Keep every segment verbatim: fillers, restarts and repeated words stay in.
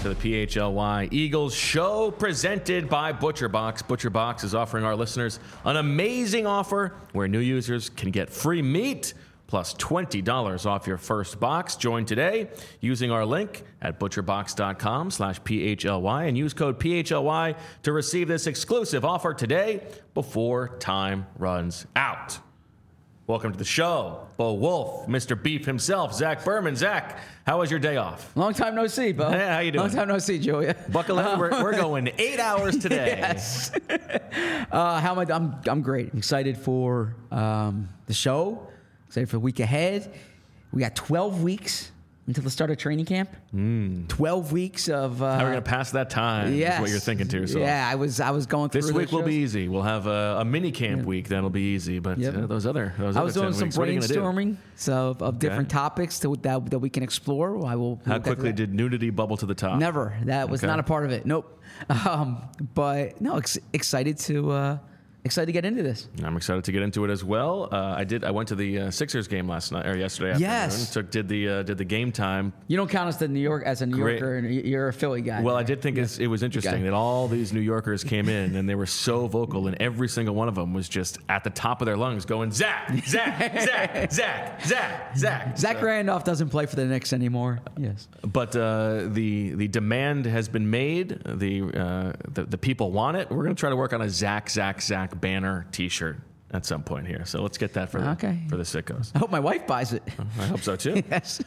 to the P H L Y Eagles show presented by ButcherBox. ButcherBox is offering our listeners an amazing offer where new users can get free meat plus twenty dollars off your first box. Join today using our link at butcherbox.com slash PHLY and use code P H L Y to receive this exclusive offer today before time runs out. Welcome to the show, Bo Wolf, Mister Beef himself, Zach Berman. Zach, how was your day off? Long time no see, Bo. Yeah, how you doing? Long time no see, Julia. Buckle in. Um, we're, we're going eight hours today. Yes. uh, how am I? I'm I'm great. I'm excited for um, the show. Excited for the week ahead. We got twelve weeks until the start of training camp. Mm. twelve weeks of. Uh, How are we going to pass that time? Yes. Is what you're thinking to yourself. Yeah, I was I was going through this week will shows. be easy. We'll have a, a mini camp yeah. week that'll be easy, but yep. uh, those other those I other was doing some weeks, brainstorming so of, of okay. different topics to, that that we can explore. I will. How we'll quickly did nudity bubble to the top? Never. That was okay. not a part of it. Nope. Um, but no, ex- excited to. Uh, Excited to get into this. I'm excited to get into it as well. Uh, I did. I went to the uh, Sixers game last night or yesterday afternoon. Yes. Took did the uh, did the game time. You don't count us the New York as a New Great. Yorker, and you're a Philly guy. Well, right? I did think yeah. it's, it was interesting that all these New Yorkers came in and they were so vocal, and every single one of them was just at the top of their lungs going Zach, Zach, Zach, Zach, Zach, Zach. Zach so, Randolph doesn't play for the Knicks anymore. Yes, but uh, the the demand has been made. The uh, the, the people want it. We're going to try to work on a Zach, Zach, Zach banner T-shirt at some point here. So let's get that for the, okay. for the sickos. I hope my wife buys it. I hope so too. Yes.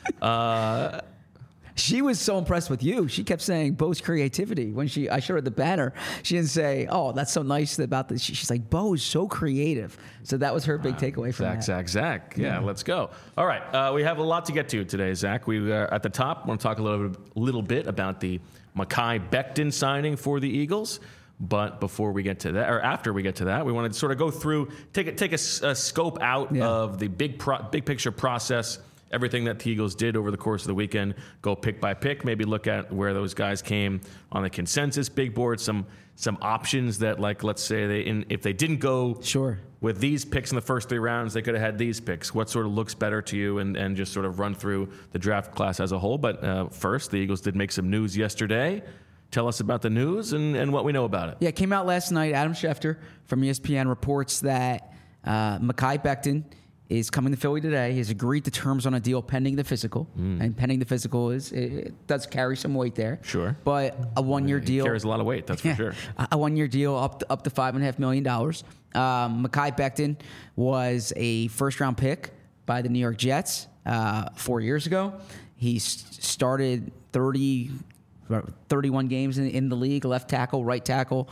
Uh, she was so impressed with you. She kept saying Bo's creativity. When she I showed her the banner, she didn't say, "Oh, that's so nice about this." She, she's like, "Bo is so creative." So that was her big takeaway from Zach, that. Zach, Zach. Yeah, yeah, let's go. All right, uh, we have a lot to get to today, Zach. We uh, at the top want to talk a little little bit about the Mekhi Becton signing for the Eagles. But before we get to that, or after we get to that, we want to sort of go through, take a, take a, a scope out yeah. of the big pro, big picture process, everything that the Eagles did over the course of the weekend. Go pick by pick, maybe look at where those guys came on the consensus big board. Some some options that, like, let's say they in, if they didn't go sure with these picks in the first three rounds, they could have had these picks. What sort of looks better to you, and, and just sort of run through the draft class as a whole. But uh, first, the Eagles did make some news yesterday. Tell us about the news and, and what we know about it. Yeah, it came out last night. Adam Schefter from E S P N reports that uh, Mekhi Becton is coming to Philly today. He's agreed to terms on a deal pending the physical. Mm. And pending the physical is it, it does carry some weight there. Sure. But a one-year it deal. carries a lot of weight, that's for yeah, sure. A one-year deal up to, up to five point five million dollars. Um, Mekhi Becton was a first-round pick by the New York Jets uh, four years ago. He started thirty... thirty-one games in, in the league, left tackle, right tackle,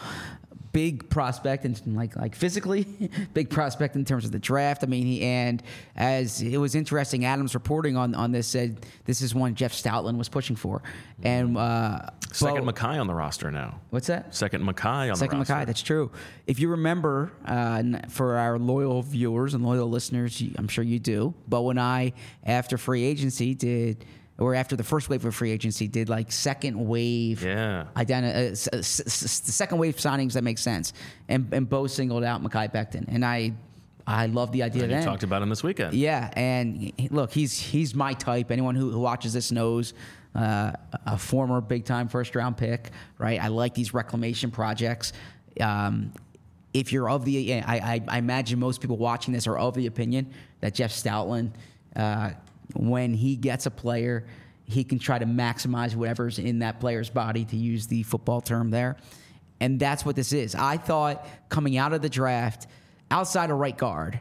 big prospect, and like like physically, big prospect in terms of the draft. I mean, he and as it was interesting, Adams reporting on, on this said this is one Jeff Stoutland was pushing for, and uh, second Bo, Mekhi on the roster now. What's that? Second Mekhi on second the roster. Mekhi. That's true. If you remember, uh, for our loyal viewers and loyal listeners, I'm sure you do. Bo and I, after free agency, did. Or after the first wave of free agency, did like second wave, yeah, identi- uh, s- s- s- the second wave signings that make sense, and and Bo singled out Mekhi Becton, and I, I love the idea. And then you talked about him this weekend, yeah, and he, look, he's he's my type. Anyone who, who watches this knows, uh, a former big time first round pick, right? I like these reclamation projects. Um, if you're of the, I, I, I imagine most people watching this are of the opinion that Jeff Stoutland. Uh, When he gets a player, he can try to maximize whatever's in that player's body, to use the football term there. And that's what this is. I thought coming out of the draft, outside of right guard,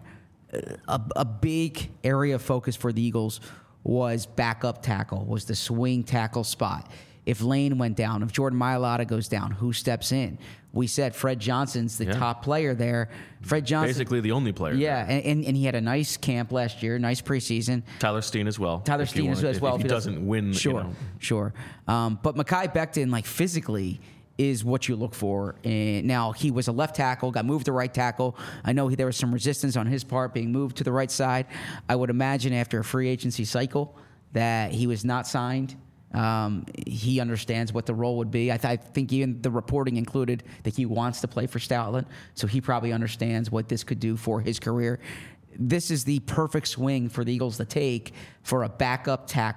a, a big area of focus for the Eagles was backup tackle, was the swing tackle spot. If Lane went down, if Jordan Mailata goes down, who steps in? We said Fred Johnson's the yeah. top player there. Fred Johnson, basically the only player. Yeah, there. and, and and he had a nice camp last year, nice preseason. Tyler Steen as well. Tyler Steen as wanted, well. If, if he doesn't win, sure, you know. sure. Um, but Mekhi Becton, like physically, is what you look for. And now he was a left tackle, got moved to right tackle. I know he, there was some resistance on his part being moved to the right side. I would imagine after a free agency cycle that he was not signed. Um, he understands what the role would be. I, th- I think even the reporting included that he wants to play for Stoutland, so he probably understands what this could do for his career. This is the perfect swing for the Eagles to take for a backup tackle.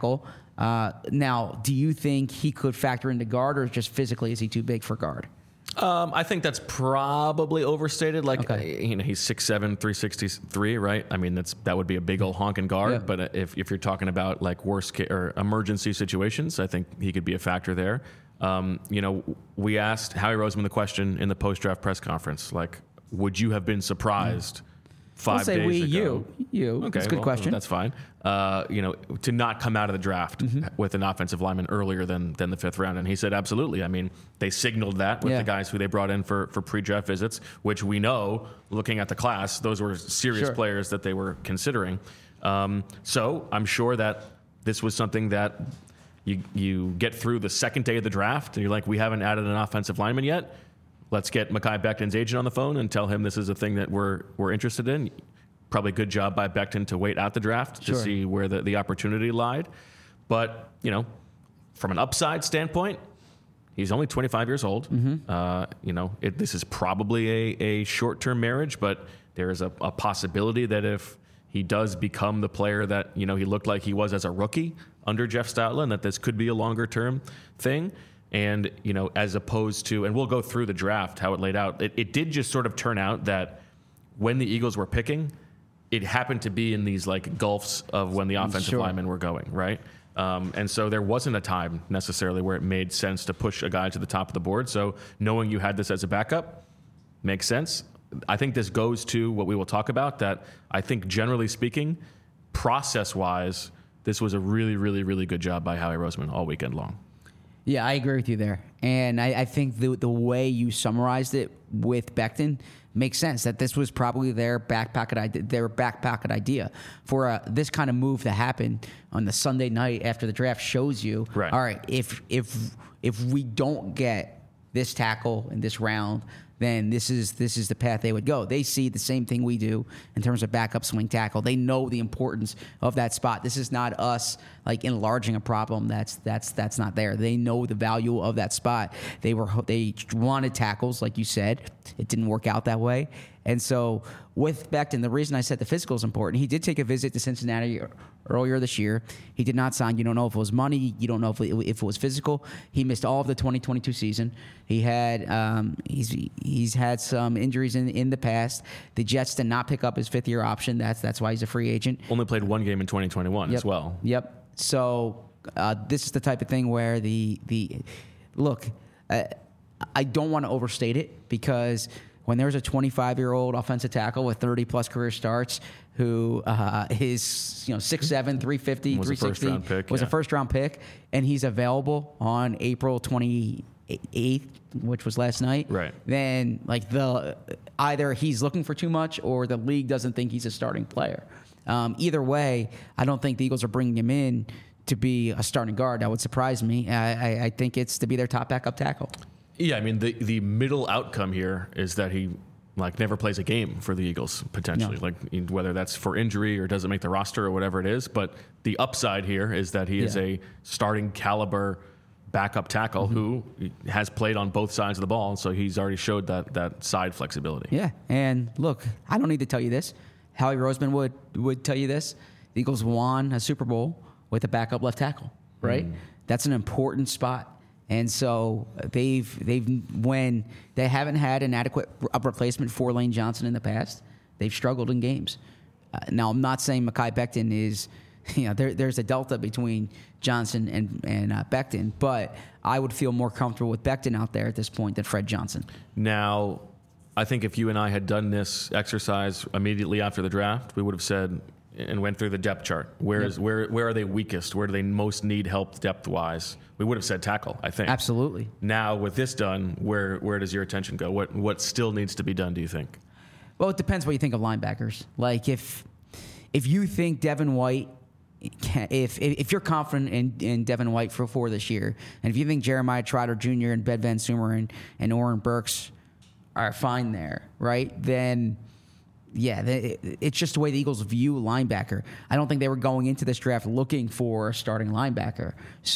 Uh, now, do you think he could factor into guard, or just physically is he too big for guard? Um, I think that's probably overstated. Like, Okay. uh, you know, he's six seven, three sixty-three, right? I mean, that's that would be a big old honking guard. Yeah. But uh, if, if you're talking about like worst case or emergency situations, I think he could be a factor there. Um, you know, we asked Howie Roseman the question in the post-draft press conference, like, would you have been surprised five I'll say days we, ago? you, you. Okay, That's a good well, question. That's fine. Uh, you know, to not come out of the draft Mm-hmm. with an offensive lineman earlier than than the fifth round, and he said absolutely. I mean, they signaled that with Yeah. the guys who they brought in for for pre-draft visits, which we know, looking at the class, those were serious Sure. players that they were considering. Um, so I'm sure that this was something that you you get through the second day of the draft, and you're like, we haven't added an offensive lineman yet. Let's get Mekhi Becton's agent on the phone and tell him this is a thing that we're we're interested in. Probably a good job by Becton to wait out the draft Sure. to see where the, the opportunity lied. But, you know, from an upside standpoint, he's only twenty-five years old. Mm-hmm. Uh, you know, it, this is probably a, a short-term marriage, but there is a, a possibility that if he does become the player that, you know, he looked like he was as a rookie under Jeff Stoutland, that this could be a longer-term thing. And, you know, as opposed to, and we'll go through the draft, how it laid out. It, it did just sort of turn out that when the Eagles were picking, it happened to be in these like gulfs of when the offensive Sure. linemen were going, right? Um, and so there wasn't a time necessarily where it made sense to push a guy to the top of the board. So knowing you had this as a backup makes sense. I think this goes to what we will talk about, that I think generally speaking, process-wise, this was a really, really, really good job by Howie Roseman all weekend long. Yeah, I agree with you there. And I, I think the the way you summarized it with Becton makes sense, that this was probably their back pocket idea, their back pocket idea for uh, this kind of move to happen on the Sunday night after the draft shows you, Right. all right, if if if we don't get this tackle in this round, then this is this is the path they would go. They see the same thing we do in terms of backup swing tackle. They know the importance of that spot. This is not us like enlarging a problem that's that's that's not there. They know the value of that spot. They were they wanted tackles, like you said. It didn't work out that way. And so with Becton, the reason I said the physical is important, he did take a visit to Cincinnati earlier this year. He did not sign. You don't know if it was money. You don't know if it, if it was physical. He missed all of the twenty twenty-two season. He had um, he's he's had some injuries in in the past. The Jets did not pick up his fifth year option. That's that's why he's a free agent. Only played one game in twenty twenty-one Yep. as well. Yep. So uh, this is the type of thing where the the look. Uh, I don't want to overstate it, because when there's a twenty-five-year-old offensive tackle with thirty plus career starts who uh, is, you know, six seven, three fifty, Was a three sixty, first-round pick, was yeah. a first-round pick, and he's available on April twenty-eighth, which was last night, Right. then like the either he's looking for too much or the league doesn't think he's a starting player. Um, either way, I don't think the Eagles are bringing him in to be a starting guard. That would surprise me. I, I, I think it's to be their top backup tackle. Yeah, I mean, the the middle outcome here is that he like never plays a game for the Eagles potentially, No. like whether that's for injury or doesn't make the roster or whatever it is. But the upside here is that he is Yeah. a starting caliber backup tackle Mm-hmm. who has played on both sides of the ball, so he's already showed that that side flexibility. Yeah, and look, I don't need to tell you this. Howie Roseman would would tell you this. The Eagles won a Super Bowl with a backup left tackle, right? Mm. That's an important spot. And so they've they've when they haven't had an adequate a replacement for Lane Johnson in the past, they've struggled in games. Uh, now I'm not saying Mekhi Becton is, you know, there, there's a delta between Johnson and and uh, Becton, but I would feel more comfortable with Becton out there at this point than Fred Johnson. Now, I think if you and I had done this exercise immediately after the draft, we would have said and went through the depth chart. Where is where where are they weakest? Where do they most need help depth wise? We would have said tackle, I think. Absolutely. Now with this done, where where does your attention go? What what still needs to be done, do you think? Well, it depends what you think of linebackers. Like if if you think Devin White, can, if if you're confident in, in Devin White for four this year, and if you think Jeremiah Trotter Junior and Ben Van Sumer and, and Oren Burks are fine there, right? Then yeah, they, it's just the way the Eagles view linebacker. I don't think they were going into this draft looking for a starting linebacker.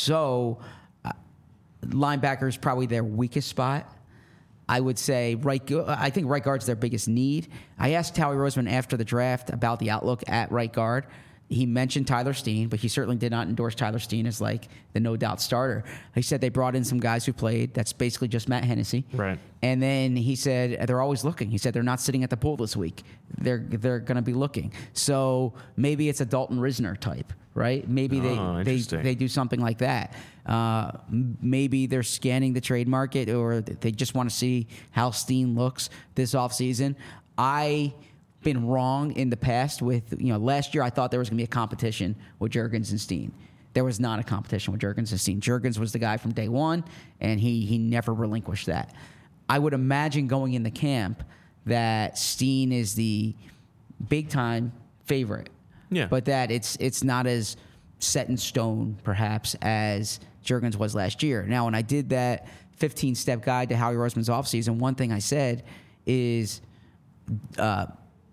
So uh, linebacker is probably their weakest spot. I would say right. I think right guard's their biggest need. I asked Howie Roseman after the draft about the outlook at right guard. He mentioned Tyler Steen, but he certainly did not endorse Tyler Steen as like the no doubt starter. He said they brought in some guys who played. That's basically just Matt Hennessy. Right. And then he said they're always looking. He said they're not sitting at the pool this week. They're they're going to be looking. So maybe it's a Dalton Risner type, right? Maybe Oh, they, they interesting. they do something like that. Uh, m- maybe they're scanning the trade market, or they just want to see how Steen looks this offseason. I. Been wrong in the past with, you know, last year I thought there was going to be a competition with Juergens and Steen. There was not a competition with Juergens and Steen. Juergens was the guy from day one, and he he never relinquished that. I would imagine going in the camp that Steen is the big-time favorite. Yeah. But that it's it's not as set in stone, perhaps, as Juergens was last year. Now, when I did that fifteen-step guide to Howie Roseman's offseason, one thing I said is uh,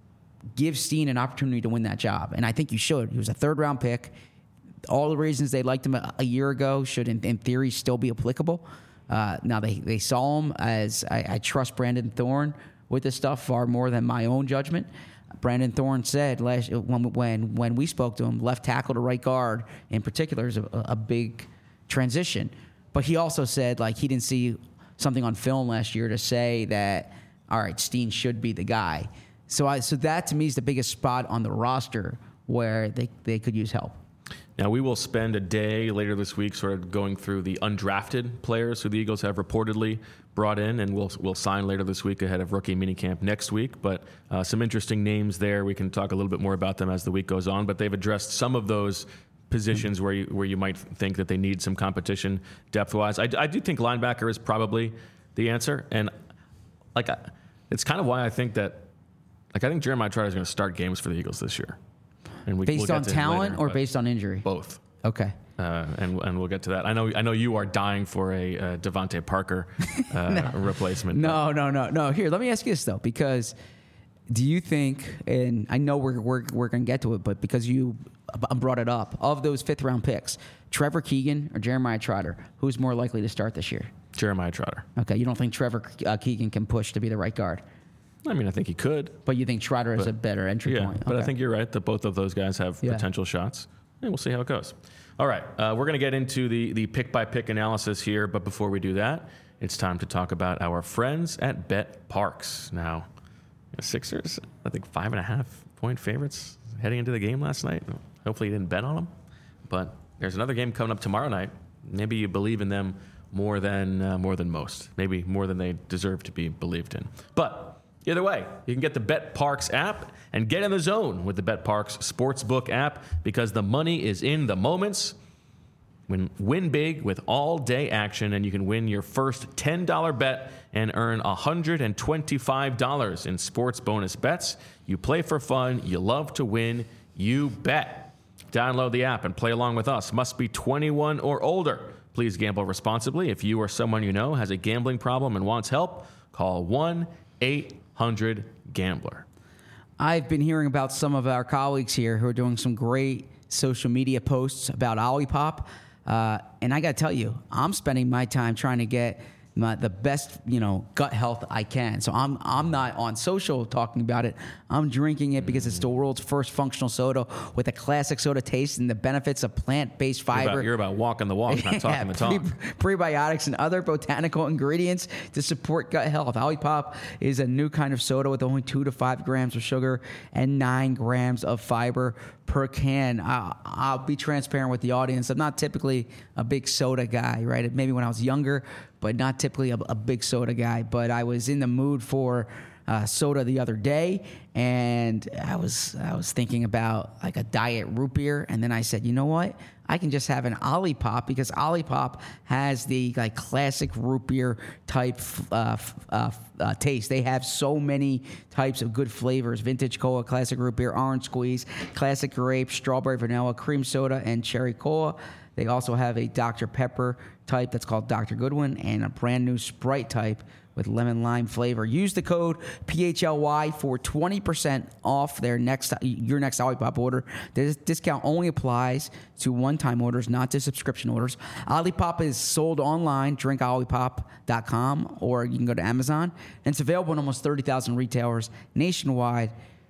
give Steen an opportunity to win that job. And I think you should. He was a third-round pick. All the reasons they liked him a, a year ago should, in, in theory, still be applicable. Uh, now, they, they saw him as I, I trust Brandon Thorne with this stuff far more than my own judgment. Brandon Thorne said last when when when we spoke to him, left tackle to right guard in particular is a, a big transition. But he also said like he didn't see something on film last year to say that all right, Steen should be the guy. So I so that to me is the biggest spot on the roster where they, they could use help. Now, we will spend a day later this week sort of going through the undrafted players who the Eagles have reportedly brought in, and we'll we'll sign later this week ahead of rookie minicamp next week. But uh, some interesting names there. We can talk a little bit more about them as the week goes on. But they've addressed some of those positions where you, where you might think that they need some competition depth-wise. I, I do think linebacker is probably the answer. And like I, it's kind of why I think that like I think Jeremiah Trotter is going to start games for the Eagles this year. And we, Based we'll get on to him talent later, or but based on injury? both. Okay. Uh, and and we'll get to that. I know I know you are dying for a uh, Devontae Parker uh, No. replacement. No, no, no, no. Here, let me ask you this though, because do you think? And I know we're we're we're gonna get to it, but because you brought it up, of those fifth round picks, Trevor Keegan or Jeremiah Trotter, who's more likely to start this year? Jeremiah Trotter. Okay, you don't think Trevor uh, Keegan can push to be the right guard, I mean, I think he could. but you think Trotter is But- a better entry Yeah, point. but I Okay. think you're right that both of those guys have Yeah. potential shots. And we'll see how it goes. All right, uh, we're going to get into the, the pick-by-pick analysis here, but before we do that, it's time to talk about our friends at Bet Parks. Now, the Sixers, I think five and a half point favorites heading into the game last night. Hopefully you didn't bet on them, but there's another game coming up tomorrow night. Maybe you believe in them more than uh, more than most, maybe more than they deserve to be believed in. But either way, you can get the Bet Parks app and get in the zone with the Bet Parks Sportsbook app because the money is in the moments. Win, win big with all-day action, and you can win your first ten dollars bet and earn one hundred twenty-five dollars in sports bonus bets. You play for fun. You love to win. You bet. Download the app and play along with us. Must be twenty-one or older. Please gamble responsibly. If you or someone you know has a gambling problem and wants help, call one eight hundred gambler. I've been hearing about some of our colleagues here who are doing some great social media posts about Olipop. Uh, and I got to tell you, I'm spending my time trying to get my, the best, you know, gut health I can. So I'm I'm not on social talking about it. I'm drinking it because it's the world's first functional soda with a classic soda taste and the benefits of plant-based You're fiber. about, you're about walking the walk, not talking the talk. Pre- prebiotics and other botanical ingredients to support gut health. Olipop is a new kind of soda with only two to five grams of sugar and nine grams of fiber per can. I'll, I'll be transparent with the audience. I'm not typically a big soda guy, right? Maybe when I was younger, but not typically a, a big soda guy. But I was in the mood for uh, soda the other day, and I was I was thinking about like a diet root beer, and then I said, you know what? I can just have an Olipop because Olipop has the like classic root beer type uh, uh, uh, taste. They have so many types of good flavors: vintage cola, classic root beer, orange squeeze, classic grape, strawberry vanilla, cream soda, and cherry cola. They also have a Doctor Pepper type that's called Doctor Goodwin and a brand new Sprite type with lemon lime flavor. Use the code P H L Y for twenty percent off their next your next Olipop order. This discount only applies to one-time orders, not to subscription orders. Olipop is sold online, drink olipop dot com, or you can go to Amazon. And it's available in almost thirty thousand retailers nationwide.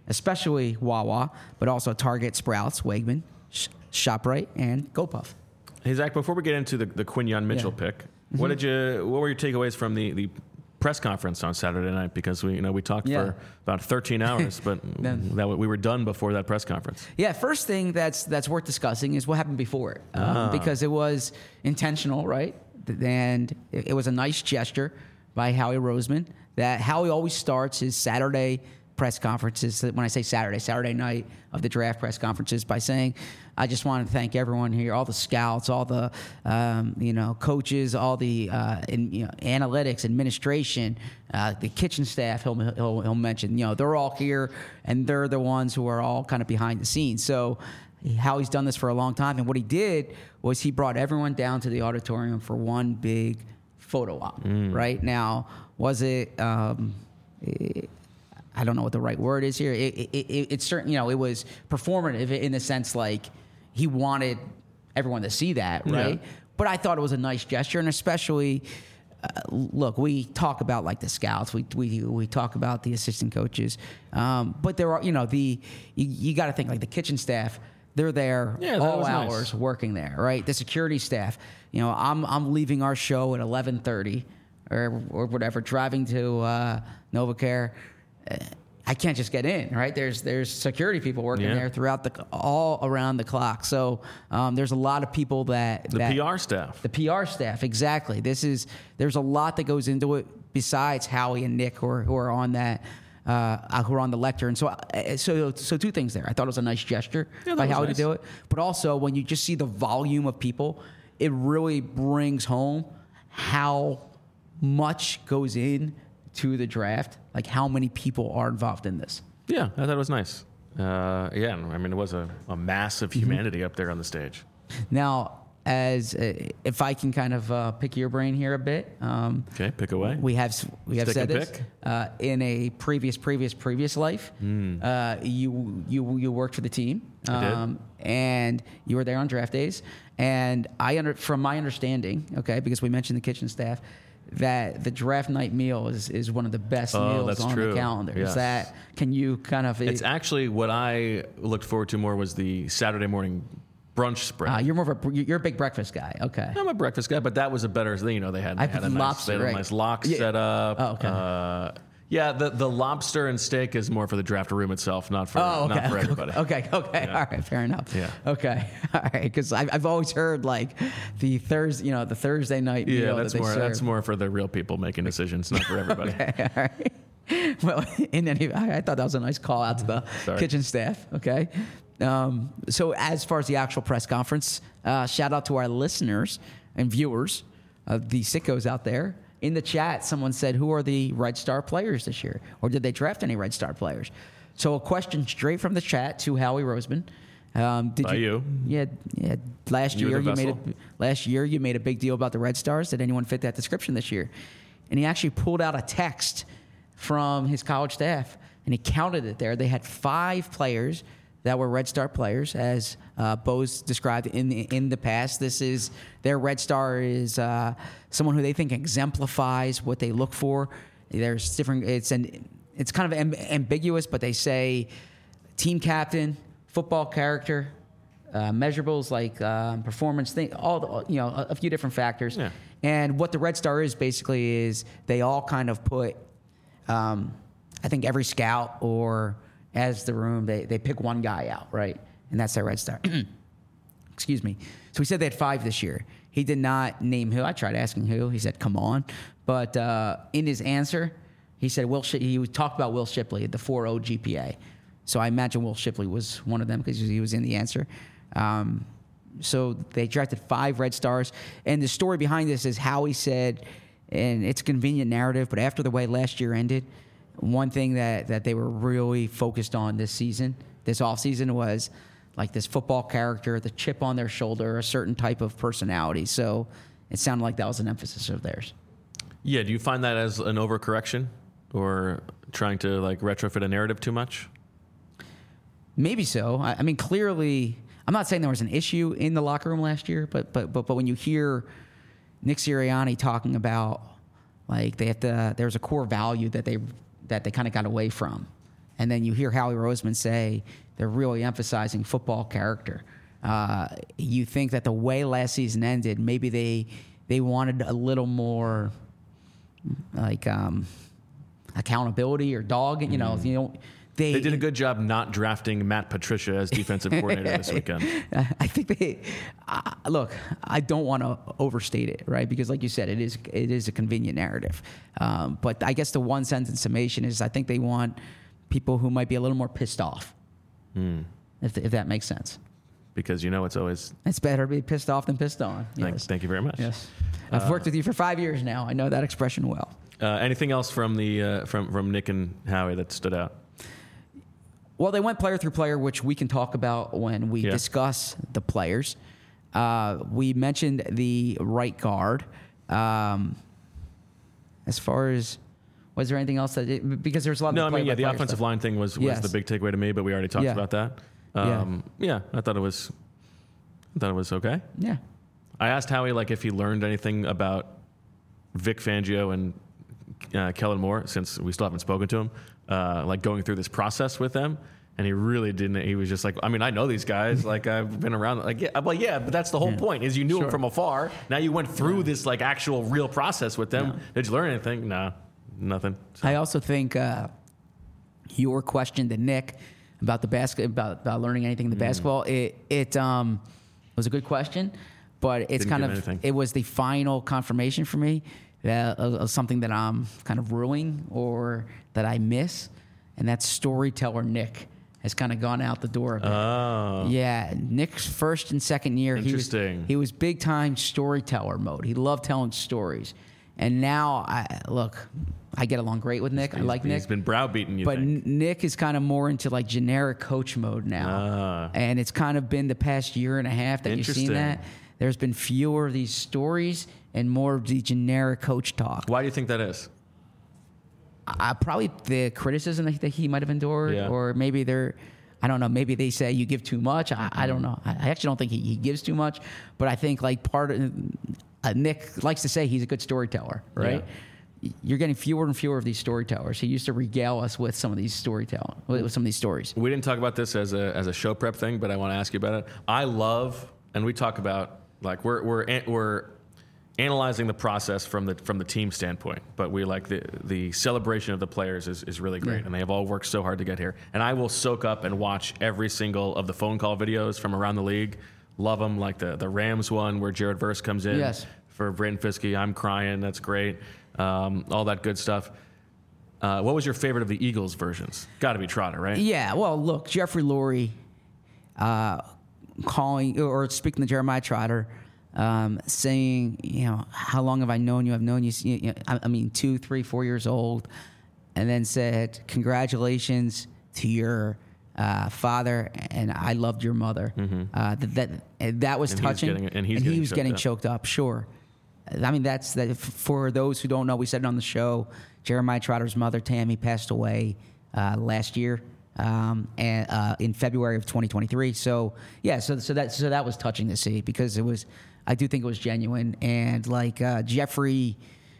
especially Wawa, but also Target, Sprouts, Wegman, Sh- ShopRite, and GoPuff. Hey, Zach, before we get into the, the Quinyon Mitchell Yeah. pick, mm-hmm. what did you? What were your takeaways from the, the press conference on Saturday night? Because we you know we talked Yeah. for about thirteen hours, but Then- that we were done before that press conference. Yeah, first thing that's that's worth discussing is what happened before it, um, Ah. because it was intentional, right? And it, it was a nice gesture by Howie Roseman. That Howie always starts his Saturday press conferences. When I say Saturday, Saturday night of the draft press conferences, by saying, "I just want to thank everyone here, all the scouts, all the um, you know coaches, all the uh, in, you know, analytics, administration, uh, the kitchen staff." He'll, he'll he'll mention, you know, they're all here, and they're the ones who are all kind of behind the scenes. So Howie's done this for a long time, and what he did was he brought everyone down to the auditorium for one big photo op. Mm. Right now, was it? Um, it I don't know what the right word is here. It, it, it, it's certain, you know, it was performative in the sense like he wanted everyone to see that, right? Yeah. But I thought it was a nice gesture, and especially, uh, look, we talk about like the scouts, we we we talk about the assistant coaches, um, but there are, you know, the you, you got to think like the kitchen staff. They're there yeah, all hours nice. working there, right? The security staff. You know, I'm I'm leaving our show at eleven thirty or or whatever, driving to uh, NovaCare. I can't just get in, right? There's there's security people working yeah. there throughout the all around the clock. So um, there's a lot of people that the that, P R staff, the P R staff, exactly. This is there's a lot that goes into it besides Howie and Nick who are, who are on that. Uh, who are on the lectern. So, uh, so, so two things there. I thought it was a nice gesture yeah, by Howie nice. to do it, but also when you just see the volume of people, it really brings home how much goes in to the draft, like how many people are involved in this. Yeah, I thought it was nice. Uh, yeah, I mean, it was a, a massive humanity mm-hmm. up there on the stage. Now, as uh, if I can kind of uh, pick your brain here a bit. Um, okay, pick away. We have we have Stick said and this pick. Uh, in a previous previous previous life. Mm. Uh, you you you worked for the team, um, I did. and you were there on draft days. And I under from my understanding, okay, because we mentioned the kitchen staff, that the draft night meal is, is one of the best oh, meals that's on true. the calendar. Yes. Is that? Can you kind of? It's actually what I looked forward to more was the Saturday morning brunch spread. Uh, you're more of a you're a big breakfast guy. Okay. I'm a breakfast guy, but that was a better. You know, they had, they had a nice, lobster, they had a right. nice lock yeah. set up. Oh, okay. Uh, yeah, the the lobster and steak is more for the draft room itself, not for oh, okay. not for everybody. Okay, okay, yeah. all right, fair enough. Yeah. Okay, all right, because I've I've always heard like the Thursday, you know, the Thursday night yeah, meal that's that they more serve. that's more for the real people making decisions, not for everybody. Okay, all right. Well, in any, I, I thought that was a nice call out to the Sorry. kitchen staff. Okay. Um, so as far as the actual press conference, uh, shout out to our listeners and viewers, uh, the sickos out there. In the chat, someone said, who are the Red Star players this year? Or did they draft any Red Star players? So a question straight from the chat to Howie Roseman. Um, did By you. Yeah, yeah. Last You're year the you made a, vessel. last year you made a big deal about the Red Stars. Did anyone fit that description this year? And he actually pulled out a text from his college staff, and he counted it there. They had five players that were Red Star players, as uh, Bose described in the, in the past. This is their Red Star is uh, someone who they think exemplifies what they look for. There's different. It's an it's kind of amb- ambiguous, but they say team captain, football character, uh, measurables like um, performance, thing, all the, you know a, a few different factors. Yeah. And what the Red Star is basically is they all kind of put. Um, I think every scout or as the room, they, they pick one guy out, right? And that's their Red Star. Excuse me. So we said they had five this year. He did not name who. I tried asking who. He said, come on. But uh, in his answer, he said Will. Sh- he talked about Will Shipley, the four point oh G P A. So I imagine Will Shipley was one of them because he was in the answer. Um, so they drafted five Red Stars. And the story behind this is Howie said, and it's a convenient narrative, but after the way last year ended, one thing that, that they were really focused on this season, this offseason, was like this football character, the chip on their shoulder, a certain type of personality. So it sounded like that was an emphasis of theirs. Yeah, do you find that as an overcorrection or trying to like retrofit a narrative too much? Maybe so. I, I mean, clearly, I'm not saying there was an issue in the locker room last year, but but but, but when you hear Nick Sirianni talking about like they have to, there's a core value that they that they kind of got away from, and then you hear Howie Roseman say they're really emphasizing football character. Uh, you think that the way last season ended, maybe they they wanted a little more like um, accountability or dog. You know, mm. you know. They, they did a good job not drafting Matt Patricia as defensive coordinator this weekend. I think they uh, look. I don't want to overstate it, right? Because, like you said, it is it is a convenient narrative. Um, but I guess the one sentence summation is: I think they want people who might be a little more pissed off, mm. if if that makes sense. Because you know it's always it's better to be pissed off than pissed on. Thank, Yes. thank you very much. Yes, I've uh, worked with you for five years now. I know that expression well. Uh, anything else from the uh, from from Nick and Howie that stood out? Well, they went player through player, which we can talk about when we yeah. discuss the players. Uh, we mentioned the right guard. Um, as far as, was there anything else that, it, because there's a lot of No, I mean, yeah, the offensive stuff. line thing was, was yes. the big takeaway to me, but we already talked yeah. about that. Um, yeah. yeah, I thought it was, I thought it was okay. Yeah. I asked Howie, like, if he learned anything about Vic Fangio and uh, Kellen Moore, since we still haven't spoken to him, uh, like going through this process with them. And he really didn't. He was just like, I mean, I know these guys. Like, I've been around. Like, yeah, I'm like, yeah, but that's the whole yeah. point. Is you knew sure. them from afar. Now you went through yeah. this like actual real process with them. Yeah. Did you learn anything? No, nothing. So. I also think uh, your question to Nick about the basket about, about learning anything in the mm. basketball. It it um was a good question, but it's didn't kind of anything. It was the final confirmation for me that uh, of something that I'm kind of ruining or that I miss, and that's storyteller Nick. Has kind of gone out the door a bit. Oh. Yeah, Nick's first and second year, he was, he was big time storyteller mode. He loved telling stories, and now I look, I get along great with Nick. He's, I like Nick. He's been browbeating you, but think. Nick is kind of more into like generic coach mode now, ah. and it's kind of been the past year and a half that you've seen that. There's been fewer of these stories and more of the generic coach talk. Why do you think that is? Uh, probably the criticism that, that he might have endured, yeah. or maybe they're, I don't know, maybe they say you give too much. I, I don't know. I, I actually don't think he, he gives too much, but I think like part of, uh, Nick likes to say he's a good storyteller, right? Yeah. You're getting fewer and fewer of these storytellers. He used to regale us with some of these storytelling, with some of these stories. We didn't talk about this as a as a show prep thing, but I want to ask you about it. I love, and we talk about like we're we're we're. analyzing the process from the from the team standpoint, but we like the the celebration of the players is, is really great, yeah. and they have all worked so hard to get here. And I will soak up and watch every single of the phone call videos from around the league. Love them, like the the Rams one where Jared Verse comes in yes. for Brayton Fiske. I'm crying. That's great. Um, all that good stuff. Uh, what was your favorite of the Eagles versions? Got to be Trotter, right? Yeah. Well, look, Jeffrey Lurie uh, calling or speaking to Jeremiah Trotter. Um, saying, you know, how long have I known you? I've known you, you know, I, I mean, two, three, four years old, and then said, congratulations to your uh, father, and I loved your mother. Mm-hmm. Uh, that, that that was and touching, he's getting, and, he's and getting he was choked getting up. choked up. Sure, I mean that's that. For those who don't know, we said it on the show. Jeremiah Trotter's mother, Tammy, passed away uh, last year. Um, and uh, in February of twenty twenty-three. So yeah, so so that so that was touching to see because it was. I do think it was genuine, and like uh, Jeffrey,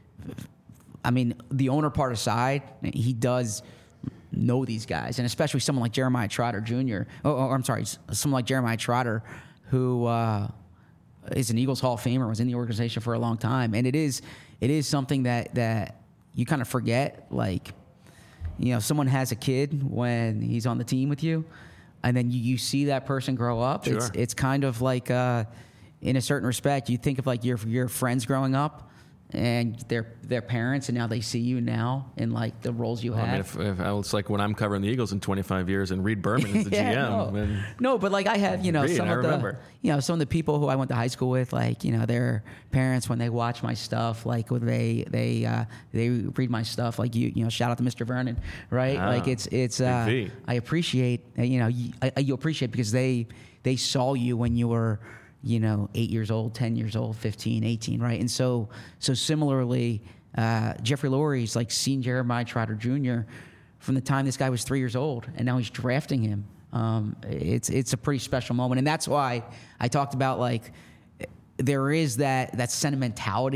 I mean, the owner part aside, he does know these guys, and especially someone like Jeremiah Trotter Junior Oh, oh I'm sorry, someone like Jeremiah Trotter, who uh, is an Eagles Hall of Famer, was in the organization for a long time, and it is it is something that that you kind of forget, like. You know, someone has a kid when he's on the team with you, and then you, you see that person grow up. Sure. It's it's kind of like, uh, in a certain respect, you think of like your your friends growing up and their their parents, and now they see you now in like the roles you well, have. I mean, if, if I, it's like when I'm covering the Eagles in twenty-five years, and Reed Berman is the yeah, G M. No. And no, but like I have, you know, Reed, some I of remember. the, you know, some of the people who I went to high school with, like, you know, their parents when they watch my stuff, like when they they uh, they read my stuff, like you you know, shout out to Mister Vernon, right? Ah, like it's it's uh, I appreciate, you know, you, I, you appreciate because they they saw you when you were, you know, eight years old, ten years old, fifteen, eighteen, right? And so so similarly. Uh, Jeffrey Lurie's like seen Jeremiah Trotter Junior from the time this guy was three years old, and now he's drafting him. Um, it's it's a pretty special moment, and that's why I talked about like there is that that sentimentality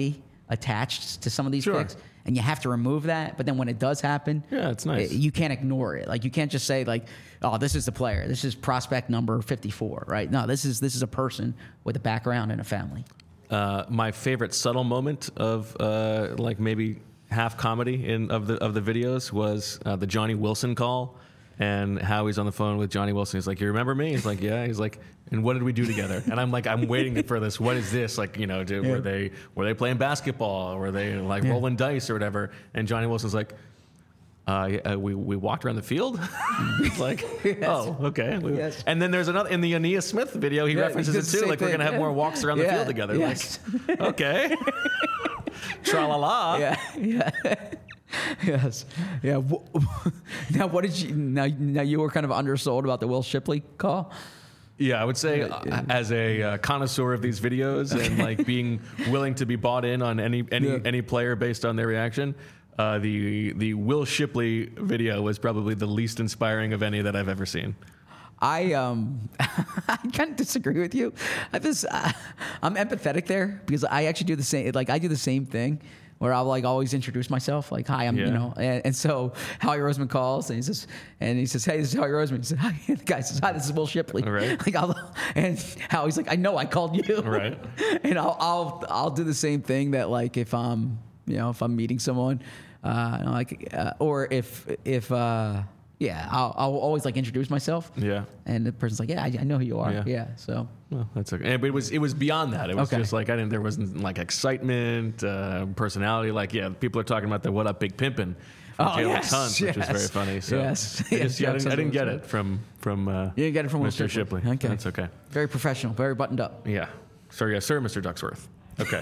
attached to some of these Sure. picks, and you have to remove that. But then when it does happen, Yeah, it's nice. You can't ignore it. Like you can't just say like, "Oh, this is the player. This is prospect number fifty-four." Right? No, this is this is a person with a background and a family. Uh, my favorite subtle moment of uh, like maybe half comedy in of the of the videos was uh, the Johnny Wilson call, and how he's on the phone with Johnny Wilson. He's like, "You remember me?" He's like, "Yeah." He's like, "And what did we do together?" And I'm like, I'm waiting for this. What is this? Like, you know, did, Yeah. were they were they playing basketball? Or were they like Yeah. rolling dice or whatever? And Johnny Wilson's like, Uh, yeah, uh, we we walked around the field. It's like, Yes. oh, okay. We- Yes. And then there's another in the Aeneas Smith video. He Yeah, references he it does the too. same Like we're thing, gonna have yeah. more walks around the Yeah, field together. yes. Like, okay. Tra la la. Yeah, yeah. Yes. Yeah. Wh- Now, what did you? Now, now you were kind of undersold about the Will Shipley call. Yeah, I would say uh, as a uh, connoisseur of these videos and like being willing to be bought in on any any Yeah. any player based on their reaction, uh, the the Will Shipley video was probably the least inspiring of any that I've ever seen. I um I kind of disagree with you. I just uh, I'm empathetic there because I actually do the same. Like I do the same thing where I'll like always introduce myself. Like hi, I'm Yeah. you know. And, and so Howie Roseman calls and he says and he says hey, this is Howie Roseman. He says hi. And the guy says hi, this is Will Shipley. Right. Like I'll and Howie's like I know I called you. Right. And I'll I'll I'll do the same thing that like if I'm you know if I'm meeting someone, uh like uh, or if if uh. Yeah, I'll, I'll always like introduce myself. Yeah. And the person's like, yeah, I, I know who you are. Yeah. Yeah. So Well, that's okay. But it was it was beyond that. It was Okay. just like I didn't. There wasn't like excitement, uh, personality. Like yeah, people are talking about the "What Up, Big Pimpin'" from Oh, Jalen yes, Tuns, which was yes, very funny. So yes. I, Yes, just, yeah, I, didn't, I didn't get Jackson it from from uh, you didn't get it from Will Mister Shipley. Shipley. Okay. That's okay. very professional, very buttoned up. Yeah. Sir, yes, sir, Mister Ducksworth. Okay.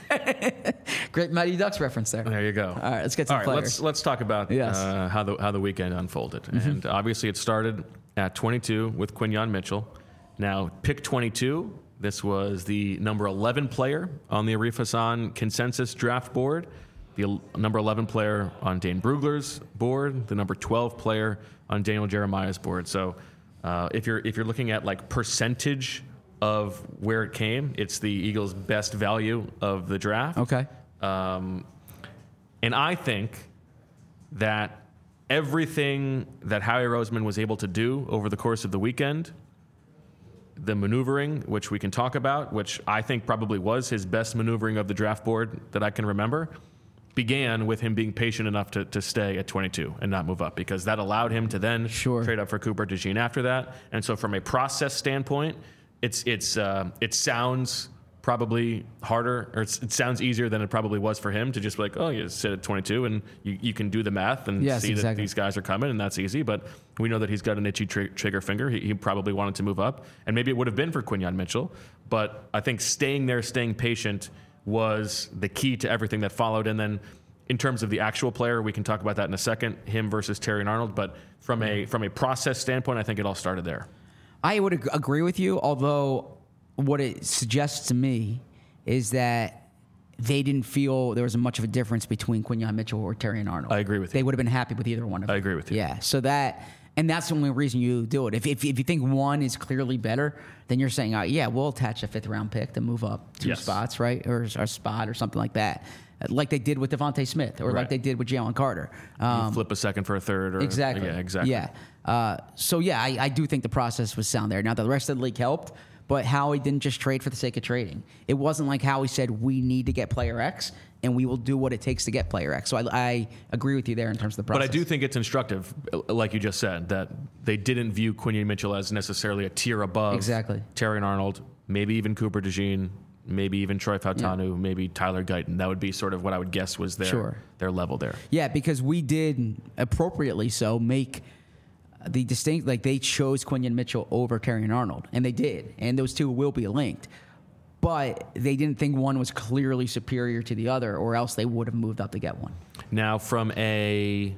Great Mighty Ducks reference there. There you go. All right, let's get to All the right, players. let's let's talk about Yes. Mm-hmm. uh, how the how the weekend unfolded. And obviously, it started at twenty-two with Quinyon Mitchell. Now, pick twenty-two. This was the number eleven player on the Arif Hassan consensus draft board, the el- number eleven player on Dane Brugler's board, the number twelve player on Daniel Jeremiah's board. So, uh, if you're if you're looking at like percentage of where it came, it's the Eagles' best value of the draft. Okay. Um, and I think that everything that Howie Roseman was able to do over the course of the weekend, the maneuvering, which we can talk about, which I think probably was his best maneuvering of the draft board that I can remember, began with him being patient enough to, to stay at twenty-two and not move up, because that allowed him to then Sure. trade up for Cooper DeJean after that. And so from a process standpoint, it's it's uh, it sounds probably harder, or it's, it sounds easier than it probably was for him to just be like, oh, you sit at twenty-two and you, you can do the math and Yes, see that exactly. these guys are coming, and that's easy. But we know that he's got an itchy tr- trigger finger. He, he probably wanted to move up, and maybe it would have been for Quinyon Mitchell. But I think staying there, staying patient was the key to everything that followed. And then in terms of the actual player, we can talk about that in a second, him versus Terry Arnold. But from a from a process standpoint, I think it all started there. I would ag- agree with you, although what it suggests to me is that they didn't feel there was much of a difference between Quinyon Mitchell or Terry and Arnold. I agree with you. They would have been happy with either one of them. I agree with you. Yeah, so that, and that's the only reason you do it. If, if, if you think one is clearly better, then you're saying, oh, yeah, we'll attach a fifth round pick to move up two Yes. spots, right? Or, or a spot or something like that. Like they did with Devontae Smith or like Right. they did with Jalen Carter. Um, You flip a second for a third. Or, Exactly. Yeah, exactly. Yeah. Uh, so yeah, I, I do think the process was sound there. Now the rest of the league helped, but Howie didn't just trade for the sake of trading. It wasn't like Howie said we need to get player X and we will do what it takes to get player X. So I, I agree with you there in terms of the process. But I do think it's instructive, like you just said, that they didn't view Quinyon Mitchell as necessarily a tier above Exactly. Terry and Arnold, maybe even Cooper DeJean, maybe even Troy Fautanu, maybe Tyler Guyton. That would be sort of what I would guess was their Sure. their level there. Yeah, because we did appropriately so make the distinct, like they chose Quinyon Mitchell over Terry and Arnold, and they did, and those two will be linked. But they didn't think one was clearly superior to the other, or else they would have moved up to get one. Now, from a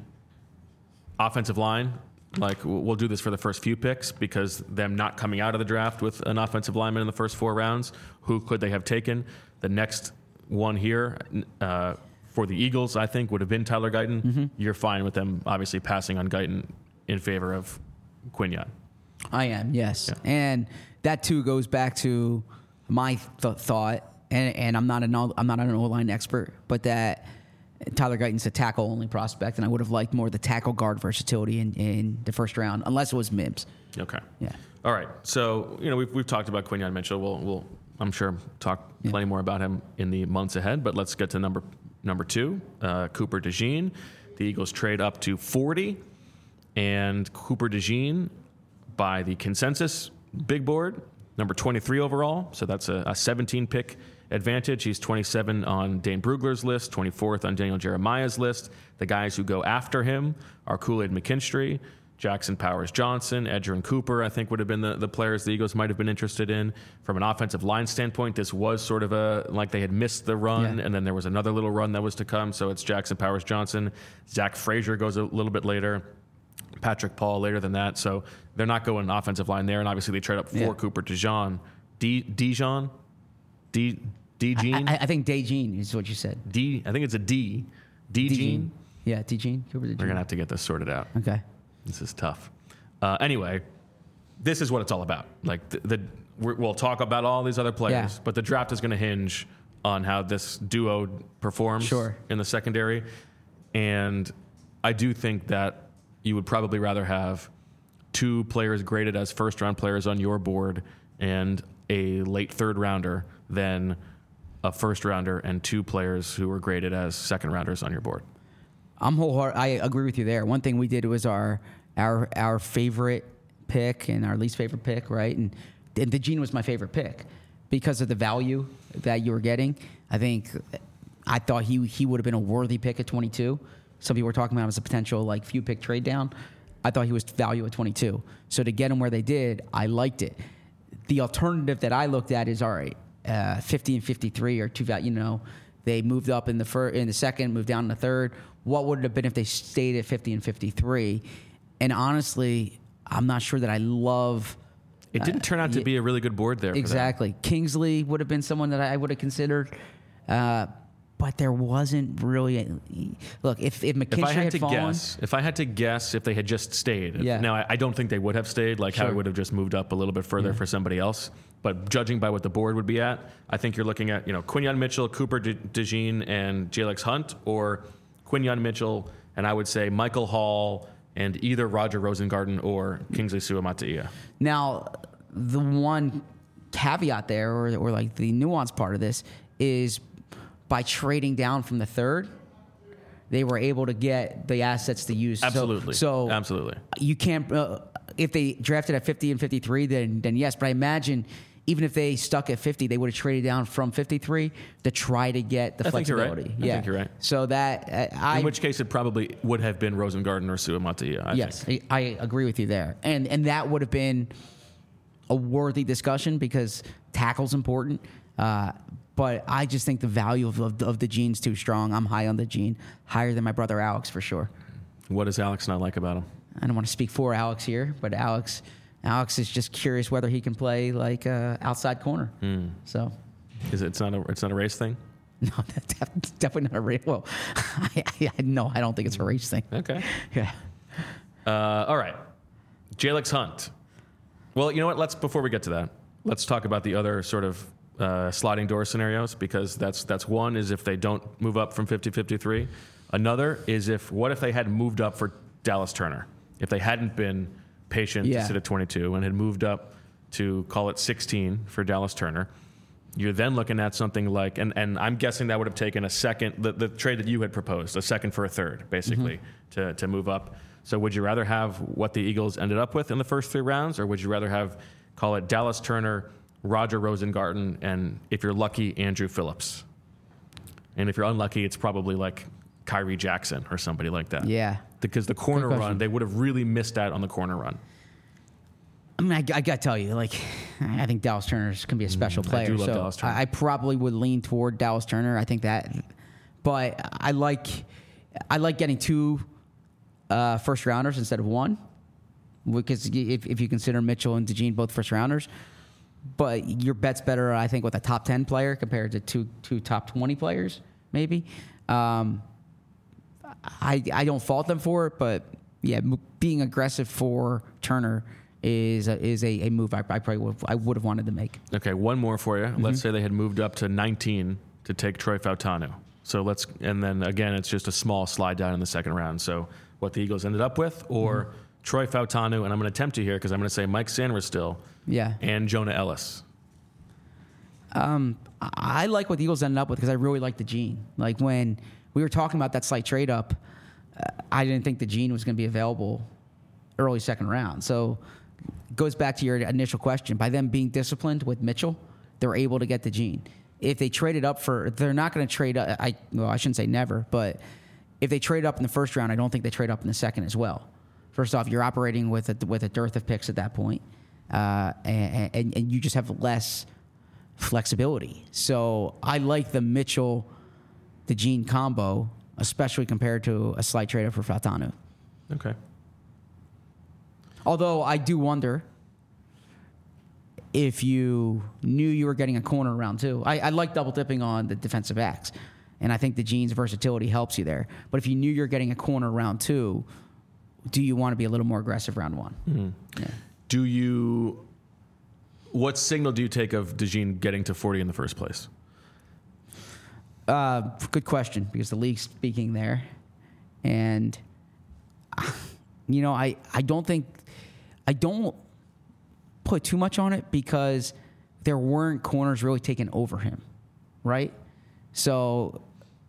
offensive line, like we'll do this for the first few picks because them not coming out of the draft with an offensive lineman in the first four rounds, who could they have taken? The next one here uh, for the Eagles, I think, would have been Tyler Guyton. Mm-hmm. You're fine with them obviously passing on Guyton in favor of Quinyon. I am, yes. And that too goes back to my th- thought and and I'm not an O- I'm not an O-line expert, but that Tyler Guyton's a tackle only prospect, and I would have liked more the tackle guard versatility in, in the first round, unless it was Mims. Okay. Yeah. All right. So you know we've we've talked about Quinyon Mitchell. We'll we'll I'm sure talk Yeah. plenty more about him in the months ahead. But let's get to number number two, uh, Cooper DeJean. The Eagles trade up to forty, and Cooper DeJean, by the consensus big board, number twenty-three overall. So that's a, a seventeen pick advantage. He's twenty-seven on Dane Brugler's list, twenty-fourth on Daniel Jeremiah's list. The guys who go after him are Kool-Aid McKinstry, Jackson Powers Johnson, Edgerrin Cooper, I think would have been the, the players the Eagles might have been interested in. From an offensive line standpoint, this was sort of a, like they had missed the run, Yeah. and then there was another little run that was to come. So it's Jackson Powers Johnson. Zach Frazier goes a little bit later. Patrick Paul later than that. So they're not going offensive line there. And obviously they trade up for Yeah. Cooper DeJean. D, Dijon? D, DeJean? I, I think DeJean is what you said. D, I think it's a D. DeJean? Yeah, DeJean. Cooper DeJean. We're going to have to get this sorted out. Okay. This is tough. Uh, anyway, this is what it's all about. Like the, the we're, we'll talk about all these other players, Yeah. but the draft is going to hinge on how this duo performs Sure. in the secondary. And I do think that you would probably rather have two players graded as first round players on your board and a late third rounder than a first rounder and two players who were graded as second rounders on your board. I'm wholehearted. I agree with you there. One thing we did was our our our favorite pick and our least favorite pick, right? And, and DeJean was my favorite pick because of the value that you were getting. I think I thought he he would have been a worthy pick at twenty-two. Some people were talking about him as a potential like few pick trade down. I thought he was value at twenty-two. So to get him where they did, I liked it. The alternative that I looked at is all right, uh, fifty and fifty-three are two val. You know, they moved up in the fir- in the second, moved down in the third. What would it have been if they stayed at fifty and fifty-three? And honestly, I'm not sure that I love. It didn't turn out to Uh, be a really good board there. Exactly. Kingsley would have been someone that I would have considered. Uh, but there wasn't really. A, look, if if McKinstry If I had, had to fallen, guess, if I had to guess, if they had just stayed, if- Yeah. now I, I don't think they would have stayed. Like how Sure. it would have just moved up a little bit further Yeah. for somebody else. But judging by what the board would be at, I think you're looking at you know Quinyon Mitchell, Cooper De- DeJean, and Jalex Hunt, or Quinyon Mitchell, and I would say Michael Hall, and either Roger Rosengarten or Kingsley Suamataia. Now, the one caveat there, or, or like the nuanced part of this, is by trading down from the third, they were able to get the assets to use. So- Absolutely. So, Absolutely. you can't. Uh, if they drafted at fifty and fifty-three, then then yes. But I imagine even if they stuck at fifty, they would have traded down from fifty-three to try to get the I think you're right. flexibility. I yeah, think you're right. So that uh, I In which case, it probably would have been Rosengarten or Suamataia. I yes, think. I, I agree with you there, and and that would have been a worthy discussion because tackle's important. Uh, but I just think the value of, of, of the gene's too strong. I'm high on the gene, higher than my brother Alex for sure. What does Alex not like about him? I don't want to speak for Alex here, but Alex, Alex is just curious whether he can play like uh, outside corner. Hmm. So, Is it, it's not a it's not a race thing? no, that's definitely not a race. Well, I, I, no, I don't think it's a race thing. Okay. Yeah. Uh, all right. Jalex Hunt. Well, you know what? Let's before we get to that, let's talk about the other sort of uh, sliding door scenarios because that's that's one is if they don't move up from fifty fifty-three. Another is if what if they had moved up for Dallas Turner? If they hadn't been patient Yeah. to sit at twenty-two and had moved up to call it sixteen for Dallas Turner, you're then looking at something like, and, and I'm guessing that would have taken a second, the, the trade that you had proposed, a second for a third, basically, mm-hmm. to, to move up. So would you rather have what the Eagles ended up with in the first three rounds, or would you rather have, call it Dallas Turner, Roger Rosengarten, and if you're lucky, Andrew Phillips? And if you're unlucky, it's probably like Kyrie Jackson or somebody like that. Yeah. Because the corner Good question. run, they would have really missed out on the corner run. I mean, I, I got to tell you, like, I think Dallas Turner can be a special player. do love so Dallas Turner. I, I probably would lean toward Dallas Turner. I think that, but I like, I like getting two uh, first rounders instead of one, because if, if you consider Mitchell and DeJean both first rounders, but your bet's better, I think, with a top ten player compared to two two top twenty players, maybe. Um, I I don't fault them for it, but yeah, m- being aggressive for Turner is a, is a, a move I, I probably would, I would have wanted to make. Okay, one more for you. Mm-hmm. Let's say they had moved up to nineteen to take Troy Fautanu. So let's, and then again, it's just a small slide down in the second round. So what the Eagles ended up with, or mm-hmm. Troy Fautanu, and I'm going to tempt you here because I'm going to say Mike Sainristil, yeah, and Jonah Ellis. Um, I like what the Eagles ended up with because I really like the Gene. Like when we were talking about that slight trade up, uh, I didn't think the Gene was going to be available early second round. So it goes back to your initial question. By them being disciplined with Mitchell, they're able to get the Gene. If they traded up for, they're not going to trade up. I well, I shouldn't say never, but if they trade up in the first round, I don't think they trade up in the second as well. First off, you're operating with a, with a dearth of picks at that point, uh, and, and, and you just have less flexibility. So I like the Mitchell, the Gene combo, especially compared to a slight trade up for Fautanu. Okay. Although I do wonder if you knew you were getting a corner round two. I, I like double dipping on the defensive backs, and I think the Gene's versatility helps you there. But if you knew you're getting a corner round two, do you want to be a little more aggressive round one? Mm-hmm. Yeah. Do you? What signal do you take of DeJean getting to forty in the first place? Uh, good question, because the league's speaking there, and you know, I, I don't think I don't put too much on it because there weren't corners really taken over him, right? So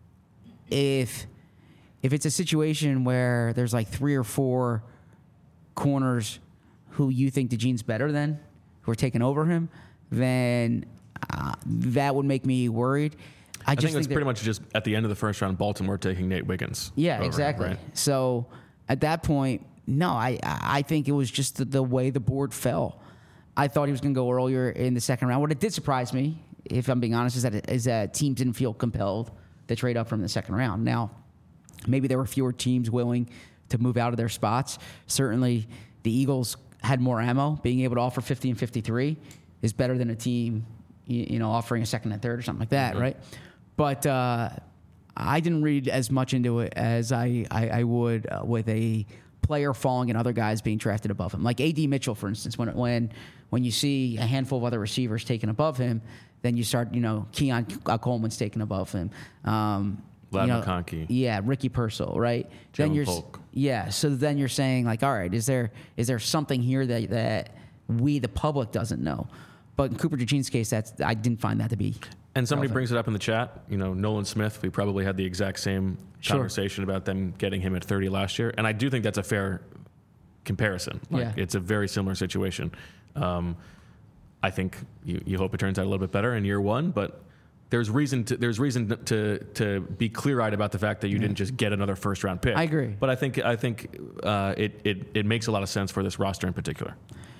if if it's a situation where there's like three or four corners who you think DeJean's better than, who are taking over him, then uh, that would make me worried. I, I just think it's think pretty much just at the end of the first round, Baltimore taking Nate Wiggins. Yeah, over, exactly. Right? So at that point, no, I I think it was just the, the way the board fell. I thought he was going to go earlier in the second round. What it did surprise me, if I'm being honest, is that is that teams didn't feel compelled to trade up from the second round. Now, maybe there were fewer teams willing to move out of their spots. Certainly, the Eagles had more ammo. Being able to offer fifty and fifty-three is better than a team, you, you know, offering a second and third or something like that, mm-hmm. right? But uh, I didn't read as much into it as I, I, I would uh, with a player falling and other guys being drafted above him. Like A D Mitchell, for instance, when when when you see a handful of other receivers taken above him, then you start, you know, Keon Coleman's taken above him. Um, Lad you know, McConkey. Yeah, Ricky Purcell, right? Joe then you're Polk. Yeah, so then you're saying like, all right, is there is there something here that that we the public doesn't know? But in Cooper DeJean's case, that's I didn't find that to be. And somebody relevant. brings it up in the chat. You know, Nolan Smith. We probably had the exact same Sure. conversation about them getting him at thirty last year, and I do think that's a fair comparison. Like, Yeah. it's a very similar situation. Um, I think you, you hope it turns out a little bit better in year one, but there's reason to there's reason to to be clear-eyed about the fact that you yeah. didn't just get another first-round pick. I agree, but I think I think uh, it it it makes a lot of sense for this roster in particular.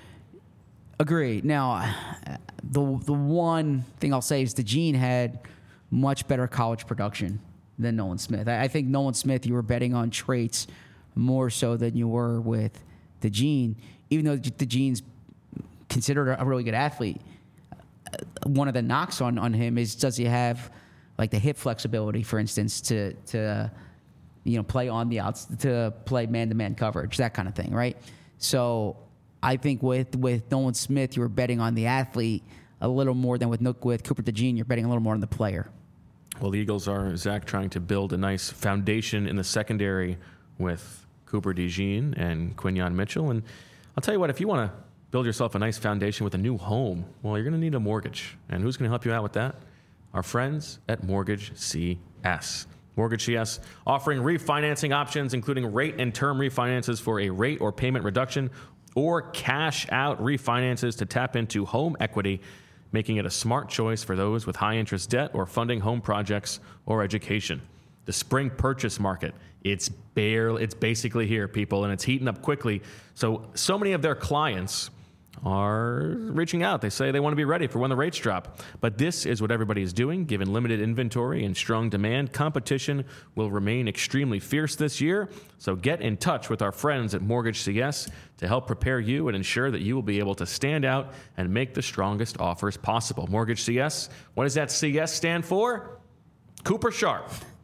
Agree. Now, the the one thing I'll say is DeJean had much better college production than Nolan Smith. I, I think Nolan Smith, you were betting on traits more so than you were with DeJean, even though DeJean's considered a really good athlete. One of the knocks on, on him is, does he have like the hip flexibility, for instance, to to you know play on the outs, to play man to man coverage, that kind of thing, right? So I think with with Nolan Smith, you were betting on the athlete a little more than with with Cooper DeJean, you're betting a little more on the player. Well, the Eagles are, Zach, trying to build a nice foundation in the secondary with Cooper DeJean and Quinyon Mitchell. And I'll tell you what, if you want to build yourself a nice foundation with a new home, well, you're going to need a mortgage. And who's going to help you out with that? Our friends at Mortgage C S. Mortgage C S offering refinancing options, including rate and term refinances for a rate or payment reduction, or cash out refinances to tap into home equity, making it a smart choice for those with high interest debt or funding home projects or education. The spring purchase market, it's barely, it's basically here, people, and it's heating up quickly. So, so many of their clients are reaching out. They say they want to be ready for when the rates drop. But this is what everybody is doing. Given limited inventory and strong demand, competition will remain extremely fierce this year. So get in touch with our friends at Mortgage C S to help prepare you and ensure that you will be able to stand out and make the strongest offers possible. Mortgage C S, what does that C S stand for? Cooper Sharp.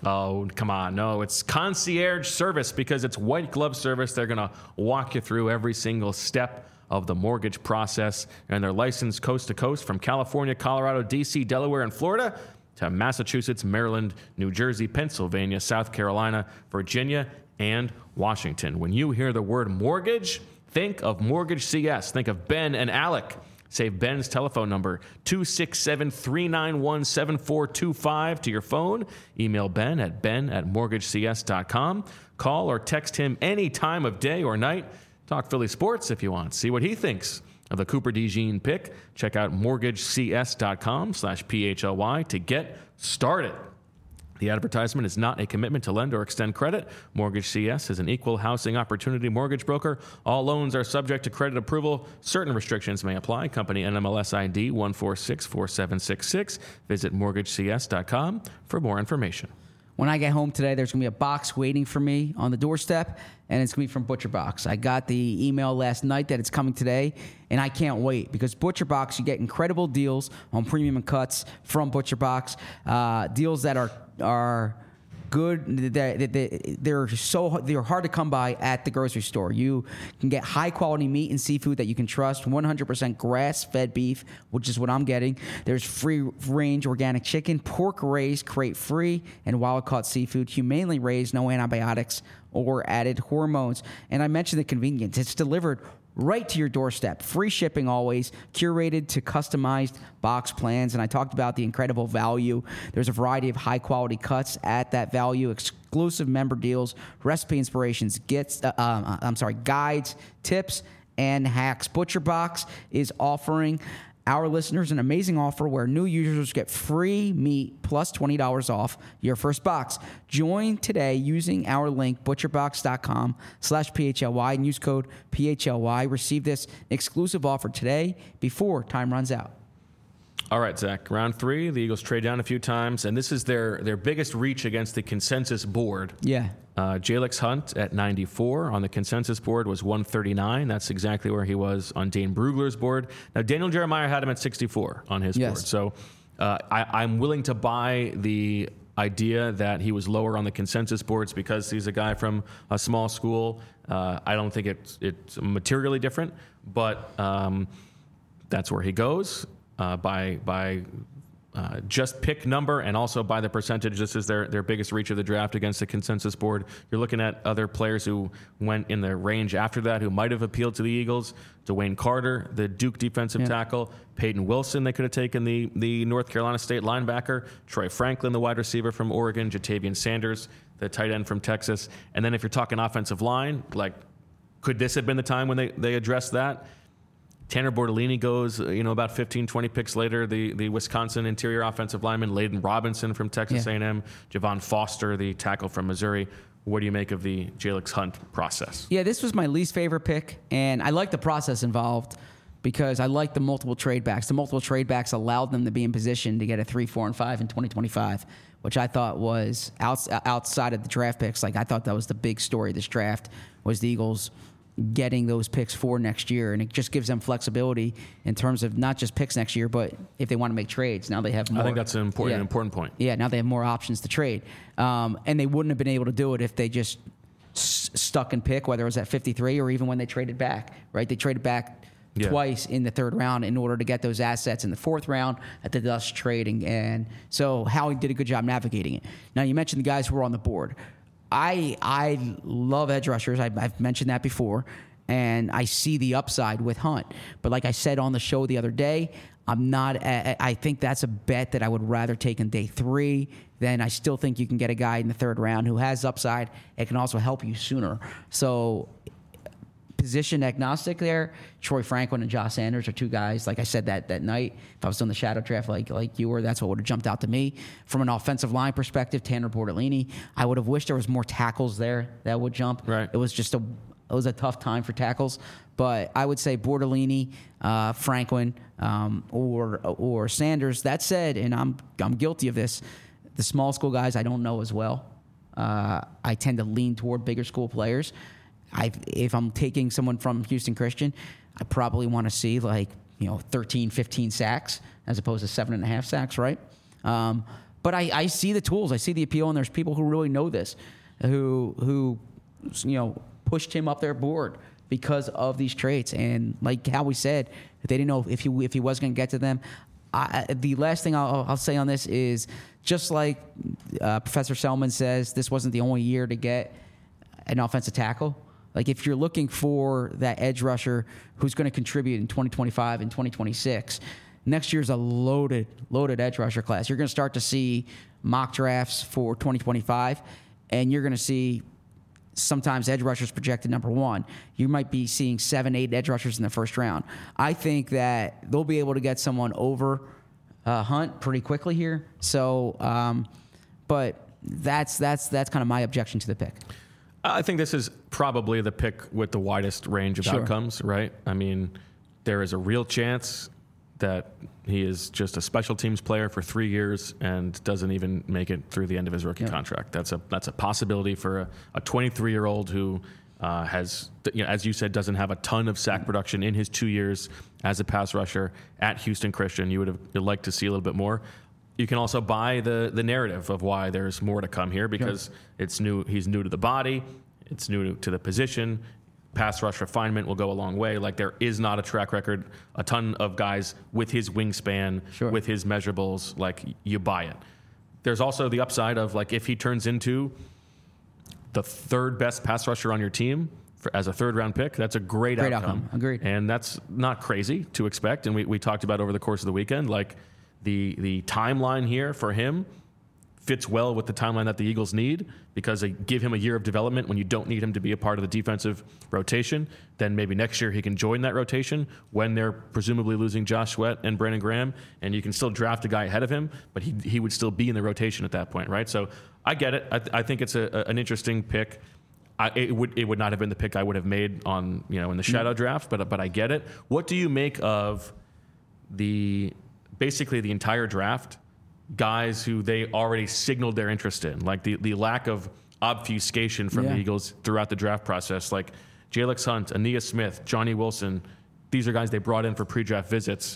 Oh, come on. No, it's concierge service because it's white glove service. They're going to walk you through every single step of the mortgage process. And they're licensed coast to coast from California, Colorado, D C, Delaware, and Florida to Massachusetts, Maryland, New Jersey, Pennsylvania, South Carolina, Virginia, and Washington. When you hear the word mortgage, think of Mortgage C S. Think of Ben and Alec. Save Ben's telephone number, two six seven, three nine one, seven four two five, to your phone. Email Ben at ben at mortgage c s dot com. Call or text him any time of day or night. Talk Philly sports if you want. See what he thinks of the Cooper DeJean pick. Check out mortgage c s dot com slash P H L Y to get started. The advertisement is not a commitment to lend or extend credit. Mortgage C S is an equal housing opportunity mortgage broker. All loans are subject to credit approval. Certain restrictions may apply. Company N M L S I D one four six four seven six six. Visit mortgage c s dot com for more information. When I get home today, there's going to be a box waiting for me on the doorstep, and it's going to be from ButcherBox. I got the email last night that it's coming today, and I can't wait because ButcherBox, you get incredible deals on premium and cuts from ButcherBox, uh, deals that are are good. They're, they're so they're hard to come by at the grocery store. You can get high quality meat and seafood that you can trust. one hundred percent grass fed beef, which is what I'm getting. There's free range organic chicken, pork raised, crate free, and wild caught seafood, humanely raised, no antibiotics or added hormones. And I mentioned the convenience. It's delivered right to your doorstep. Free shipping always, curated to customized box plans. And I talked about the incredible value. There's a variety of high-quality cuts at that value, exclusive member deals, recipe inspirations, gets, uh, um, I'm sorry, guides, tips, and hacks. ButcherBox is offering our listeners an amazing offer where new users get free meat plus twenty dollars off your first box. Join today using our link, butcherbox.com slash PHLY, and use code P H L Y. Receive this exclusive offer today before time runs out. All right, Zach. Round three, the Eagles trade down a few times, and this is their, their biggest reach against the consensus board. Yeah. Uh, Jalix Hunt at ninety-four on the consensus board was one thirty-nine. That's exactly where he was on Dane Brugler's board. Now, Daniel Jeremiah had him at sixty-four on his yes. board. So uh, I, I'm willing to buy the idea that he was lower on the consensus boards because he's a guy from a small school. Uh, I don't think it's, it's materially different, but um, that's where he goes. Uh, by by uh, just pick number and also by the percentage. This is their, their biggest reach of the draft against the consensus board. You're looking at other players who went in the range after that who might have appealed to the Eagles. Dwayne Carter, the Duke defensive yeah. tackle. Peyton Wilson, they could have taken the, the North Carolina State linebacker. Troy Franklin, the wide receiver from Oregon. Jatavian Sanders, the tight end from Texas. And then if you're talking offensive line, like, could this have been the time when they, they addressed that? Tanner Bortolini goes, you know, about fifteen, twenty picks later. The the Wisconsin interior offensive lineman, Layden Robinson from Texas yeah. A and M, Javon Foster, the tackle from Missouri. What do you make of the Jalix Hunt process? Yeah, this was my least favorite pick, and I like the process involved because I like the multiple trade backs. The multiple trade backs allowed them to be in position to get a three, four, and five in twenty twenty-five, which I thought was outs- outside of the draft picks. Like, I thought that was the big story of this draft was the Eagles getting those picks for next year, and it just gives them flexibility in terms of not just picks next year, but if they want to make trades, now they have more. I think that's an important, yeah, an important point. Yeah, now they have more options to trade, um, and they wouldn't have been able to do it if they just s- stuck and pick, whether it was at fifty-three or even when they traded back. Right, they traded back yeah. twice in the third round in order to get those assets in the fourth round at the Dust trading, and so Howie did a good job navigating it. Now you mentioned the guys who were on the board. I I love edge rushers. I, I've mentioned that before, and I see the upside with Hunt. But like I said on the show the other day, I'm not. I think that's a bet that I would rather take in day three. Then I still think you can get a guy in the third round who has upside. It can also help you sooner. So position agnostic there. Troy Franklin and Josh Sanders are two guys. Like I said that that night, if I was on the shadow draft like like you were, that's what would have jumped out to me. From an offensive line perspective, Tanner Bortolini, I would have wished there was more tackles there that would jump. Right. It was just a it was a tough time for tackles, but I would say Bortolini, uh, Franklin, um, or or Sanders. That said, and I'm I'm guilty of this. The small school guys I don't know as well. Uh, I tend to lean toward bigger school players. I, if I'm taking someone from Houston Christian, I probably want to see like, you know, thirteen, fifteen sacks as opposed to seven and a half sacks, right? Um, but I, I see the tools. I see the appeal, and there's people who really know this, who who you know pushed him up their board because of these traits. And like Howie said, they didn't know if he if he was going to get to them. I, the last thing I'll, I'll say on this is just like uh, Professor Selman says, this wasn't the only year to get an offensive tackle. Like if you're looking for that edge rusher who's going to contribute in twenty twenty-five and twenty twenty-six, next year's a loaded, loaded edge rusher class. You're going to start to see mock drafts for twenty twenty-five, and you're going to see sometimes edge rushers projected number one. You might be seeing seven, eight edge rushers in the first round. I think that they'll be able to get someone over uh, Hunt pretty quickly here. So, um, but that's that's that's kind of my objection to the pick. I think this is probably the pick with the widest range of Sure. outcomes, right? I mean, there is a real chance that he is just a special teams player for three years and doesn't even make it through the end of his rookie Yeah. contract. That's a that's a possibility for a, a twenty-three-year-old who uh, has, you know, as you said, doesn't have a ton of sack production in his two years as a pass rusher at Houston Christian. You would have you'd like to see a little bit more. You can also buy the the narrative of why there's more to come here because sure. it's new. He's new to the body. It's new to the position. Pass rush refinement will go a long way. Like there is not a track record, a ton of guys with his wingspan, sure. with his measurables. Like you buy it. There's also the upside of like if he turns into the third best pass rusher on your team for, as a third round pick, that's a great, great outcome. outcome. Agreed. And that's not crazy to expect. And we, we talked about over the course of the weekend, like the the timeline here for him fits well with the timeline that the Eagles need because they give him a year of development when you don't need him to be a part of the defensive rotation. Then maybe next year he can join that rotation when they're presumably losing Josh Sweat and Brandon Graham, and you can still draft a guy ahead of him, but he he would still be in the rotation at that point, right? So I get it. I, th- I think it's a, a, an interesting pick. I, it would it would not have been the pick I would have made on you know in the shadow mm-hmm. draft, but but I get it. What do you make of the basically the entire draft? Guys who they already signaled their interest in, like the, the lack of obfuscation from yeah. the Eagles throughout the draft process, like Jalex Hunt, Ania Smith, Johnny Wilson. These are guys they brought in for pre-draft visits.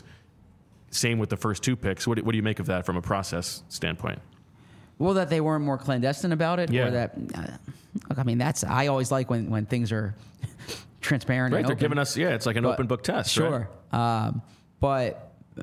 Same with the first two picks. What do, what do you make of that from a process standpoint? Well, that they weren't more clandestine about it, yeah. or that. Uh, look, I mean, that's I always like when, when things are transparent. Right, and they're open. giving us yeah, it's like an but, open book test. Sure, right? um, but.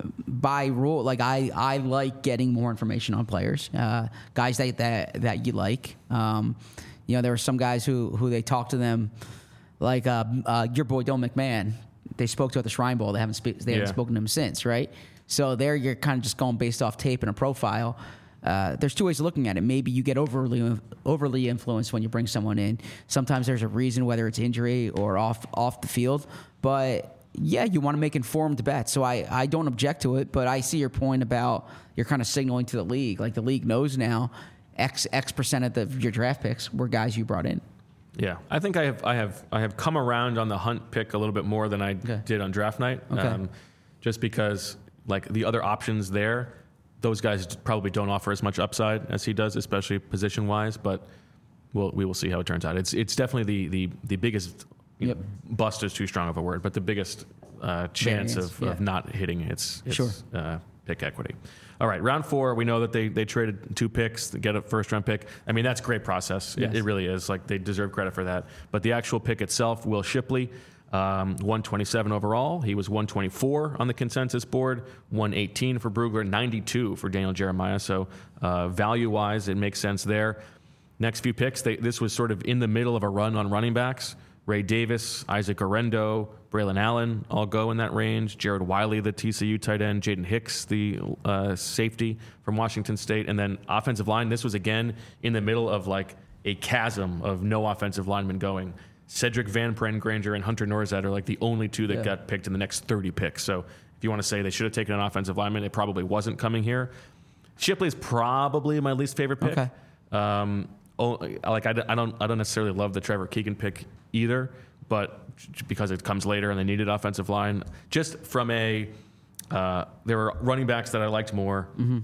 By rule, like I, I like getting more information on players, uh, guys that, that that you like. Um, you know, there were some guys who who they talked to them, like uh, uh, your boy Dylan McMahon. They spoke to at the Shrine Bowl. They haven't spe- they haven't yeah. spoken to him since, right? So there, you're kind of just going based off tape and a profile. Uh, there's two ways of looking at it. Maybe you get overly overly influenced when you bring someone in. Sometimes there's a reason, whether it's injury or off off the field, but. Yeah, you want to make informed bets. So I, I don't object to it, but I see your point about you're kind of signaling to the league. Like the league knows now X X percent of the, your draft picks were guys you brought in. Yeah, I think I have I have I have come around on the Hunt pick a little bit more than I okay. did on draft night. Okay. Um, just because like the other options there, those guys probably don't offer as much upside as he does, especially position wise. But we'll we will see how it turns out. It's it's definitely the the the biggest. Yep. Bust is too strong of a word, but the biggest uh, chance Variance, of, yeah. of not hitting its, its sure. uh, pick equity. All right, round four, we know that they, they traded two picks to get a first-round pick. I mean, that's a great process. Yes. It, it really is. Like, they deserve credit for that. But the actual pick itself, Will Shipley, um, one twenty-seven overall. He was one twenty-four on the consensus board, one eighteen for Brugler, ninety-two for Daniel Jeremiah. So uh, value-wise, it makes sense there. Next few picks, they, this was sort of in the middle of a run on running backs. Ray Davis, Isaac Orendo, Braylon Allen all go in that range. Jared Wiley, the T C U tight end. Jaden Hicks, the uh, safety from Washington State. And then offensive line, this was again in the middle of like a chasm of no offensive linemen going. Cedric Van Pren Granger and Hunter Norzad are like the only two that yeah. got picked in the next thirty picks. So if you want to say they should have taken an offensive lineman, it probably wasn't coming here. Shipley is probably my least favorite pick. Okay. Um, Oh, like I, I don't I don't necessarily love the Trevor Keegan pick either, but because it comes later and they needed offensive line, just from a uh, there were running backs that I liked more. Mm-hmm.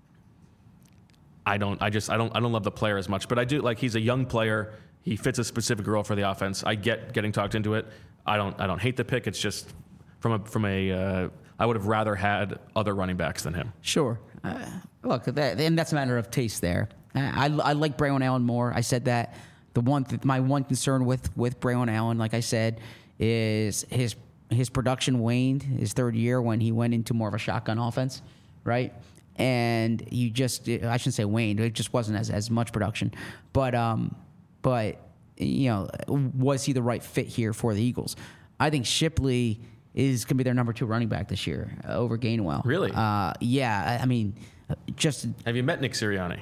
I don't I just I don't I don't love the player as much, but I do like he's a young player. He fits a specific role for the offense. I get getting talked into it. I don't I don't hate the pick. It's just from a from a uh, I would have rather had other running backs than him. Sure. Uh, look, that, and that's a matter of taste there. I, I, I like Braylon Allen more. I said that. The one, th- my one concern with with Braylon Allen, like I said, is his his production waned his third year when he went into more of a shotgun offense, right? And you just, I shouldn't say waned, it just wasn't as, as much production. But, um, but you know, was he the right fit here for the Eagles? I think Shipley is going to be their number two running back this year uh, over Gainwell. Really? Uh, yeah, I, I mean, just... Have you met Nick Sirianni?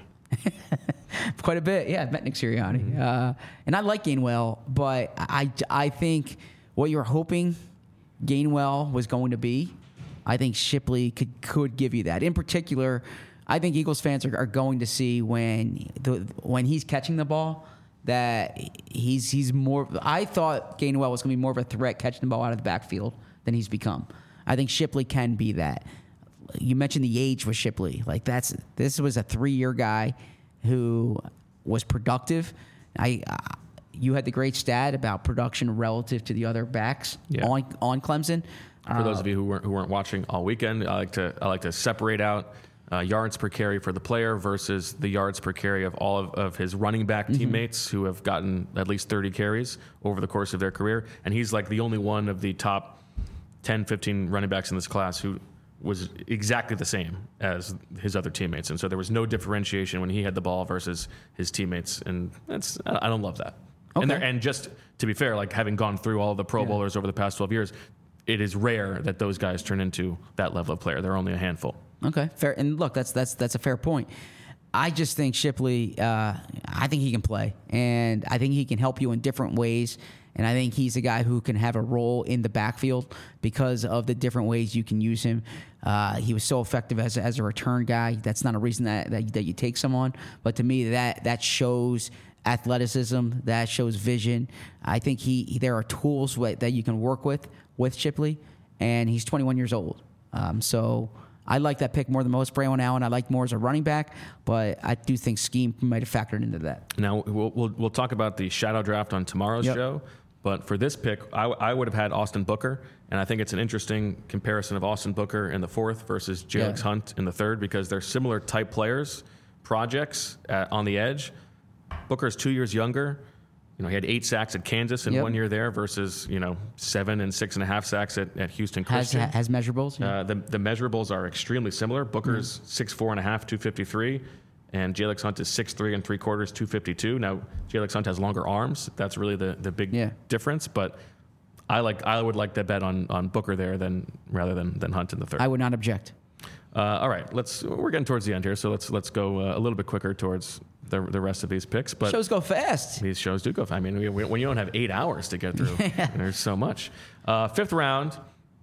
Quite a bit, yeah. I've met Nick Sirianni. Mm-hmm. Uh, and I like Gainwell, but I, I think what you were hoping Gainwell was going to be, I think Shipley could could give you that. In particular, I think Eagles fans are, are going to see when the when he's catching the ball that he's he's more. I thought Gainwell was going to be more of a threat catching the ball out of the backfield than he's become. I think Shipley can be that. You mentioned the age with Shipley. Like that's this was a three-year guy who was productive. I uh, you had the great stat about production relative to the other backs yeah. on on Clemson. For uh, those of you who weren't who weren't watching all weekend, I like to I like to separate out uh, yards per carry for the player versus the yards per carry of all of, of his running back mm-hmm. teammates who have gotten at least thirty carries over the course of their career, and he's like the only one of the top ten, fifteen running backs in this class who was exactly the same as his other teammates. And so there was no differentiation when he had the ball versus his teammates. And that's, I don't love that. Okay. And, there, and just to be fair, like having gone through all the Pro yeah. Bowlers over the past twelve years, it is rare that those guys turn into that level of player. There are only a handful. Okay, fair. And look, that's, that's, that's a fair point. I just think Shipley, uh, I think he can play. And I think he can help you in different ways. And I think he's a guy who can have a role in the backfield because of the different ways you can use him. Uh, he was so effective as, as a return guy. That's not a reason that, that, that you take someone. But to me, that that shows athleticism. That shows vision. I think he there are tools that you can work with with Shipley. And he's twenty-one years old. Um, so I like that pick more than most. Braylon Allen I like more as a running back, but I do think scheme might have factored into that. Now, we'll, we'll, we'll talk about the shadow draft on tomorrow's yep. show. But for this pick, I, I would have had Austin Booker, and I think it's an interesting comparison of Austin Booker in the fourth versus Jalen yeah. Hunt in the third because they're similar type players, projects at, on the edge. Booker's two years younger. You know, he had eight sacks at Kansas in yep. one year there versus, you know, seven and six and a half sacks at, at Houston Christian. Has, has measurables? Yeah. Uh, the, the measurables are extremely similar. Booker's mm. six four and a half, two fifty-three. And Jalen Hunt is six three and three quarters, two fifty-two. Now, Jalen Hunt has longer arms. That's really the, the big yeah. difference. But I like I would like to bet on, on Booker there than rather than, than Hunt in the third. I would not object. Uh, all right, let's. We're getting towards the end here, so let's let's go uh, a little bit quicker towards the the rest of these picks. But shows go fast. These shows do go fast. I mean, we, when you don't have eight hours to get through, yeah. there's so much. Uh, fifth round,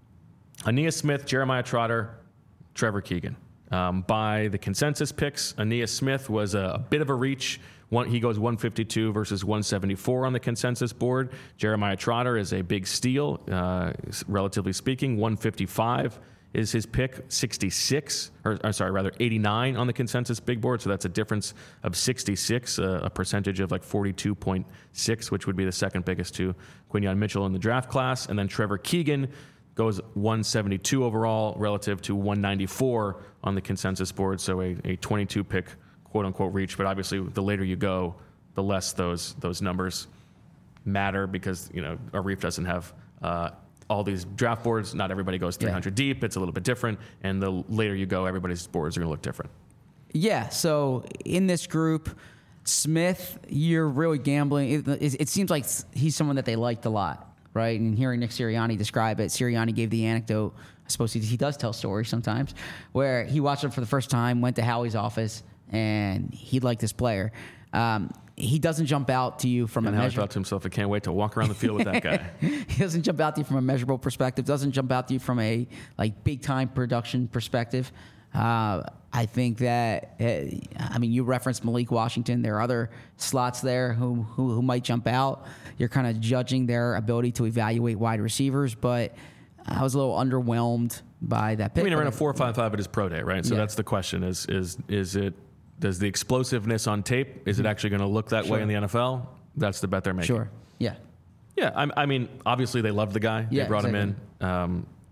Ainias Smith, Jeremiah Trotter, Trevor Keegan. Um, by the consensus picks, Ainias Smith was a, a bit of a reach. One, he goes one fifty-two versus one seventy-four on the consensus board. Jeremiah Trotter is a big steal, uh, relatively speaking. one fifty-five is his pick, sixty-six, or I'm sorry, rather eighty-nine on the consensus big board. So that's a difference of sixty-six, uh, a percentage of like forty-two point six, which would be the second biggest to Quinyon Mitchell in the draft class. And then Trevor Keegan goes one seventy-two overall relative to one ninety-four on the consensus board. So a, a twenty-two pick, quote unquote, reach. But obviously, the later you go, the less those those numbers matter because, you know, Arif doesn't have uh, all these draft boards. Not everybody goes three hundred yeah. deep. It's a little bit different. And the later you go, everybody's boards are going to look different. Yeah. So in this group, Smith, you're really gambling. It, it, it seems like he's someone that they liked a lot. Right, and hearing Nick Sirianni describe it, Sirianni gave the anecdote. I suppose he, he does tell stories sometimes, where he watched him for the first time, went to Howie's office, and he liked this player. Um, he doesn't jump out to you from and a Howie measure. thought to himself, I can't wait to walk around the field with that guy. He doesn't jump out to you from a measurable perspective. Doesn't jump out to you from a like big time production perspective. Uh, I think that, uh, I mean, you referenced Malik Washington. There are other slots there who who, who might jump out. You're kind of judging their ability to evaluate wide receivers, but I was a little underwhelmed by that pick. I mean, he ran a four five five at his pro day, right? So yeah. that's the question: is is is it does the explosiveness on tape is it actually going to look that sure. way in the N F L? That's the bet they're making. Sure. Yeah. Yeah. I, I mean, obviously they loved the guy. Yeah, they brought exactly. him in. Um,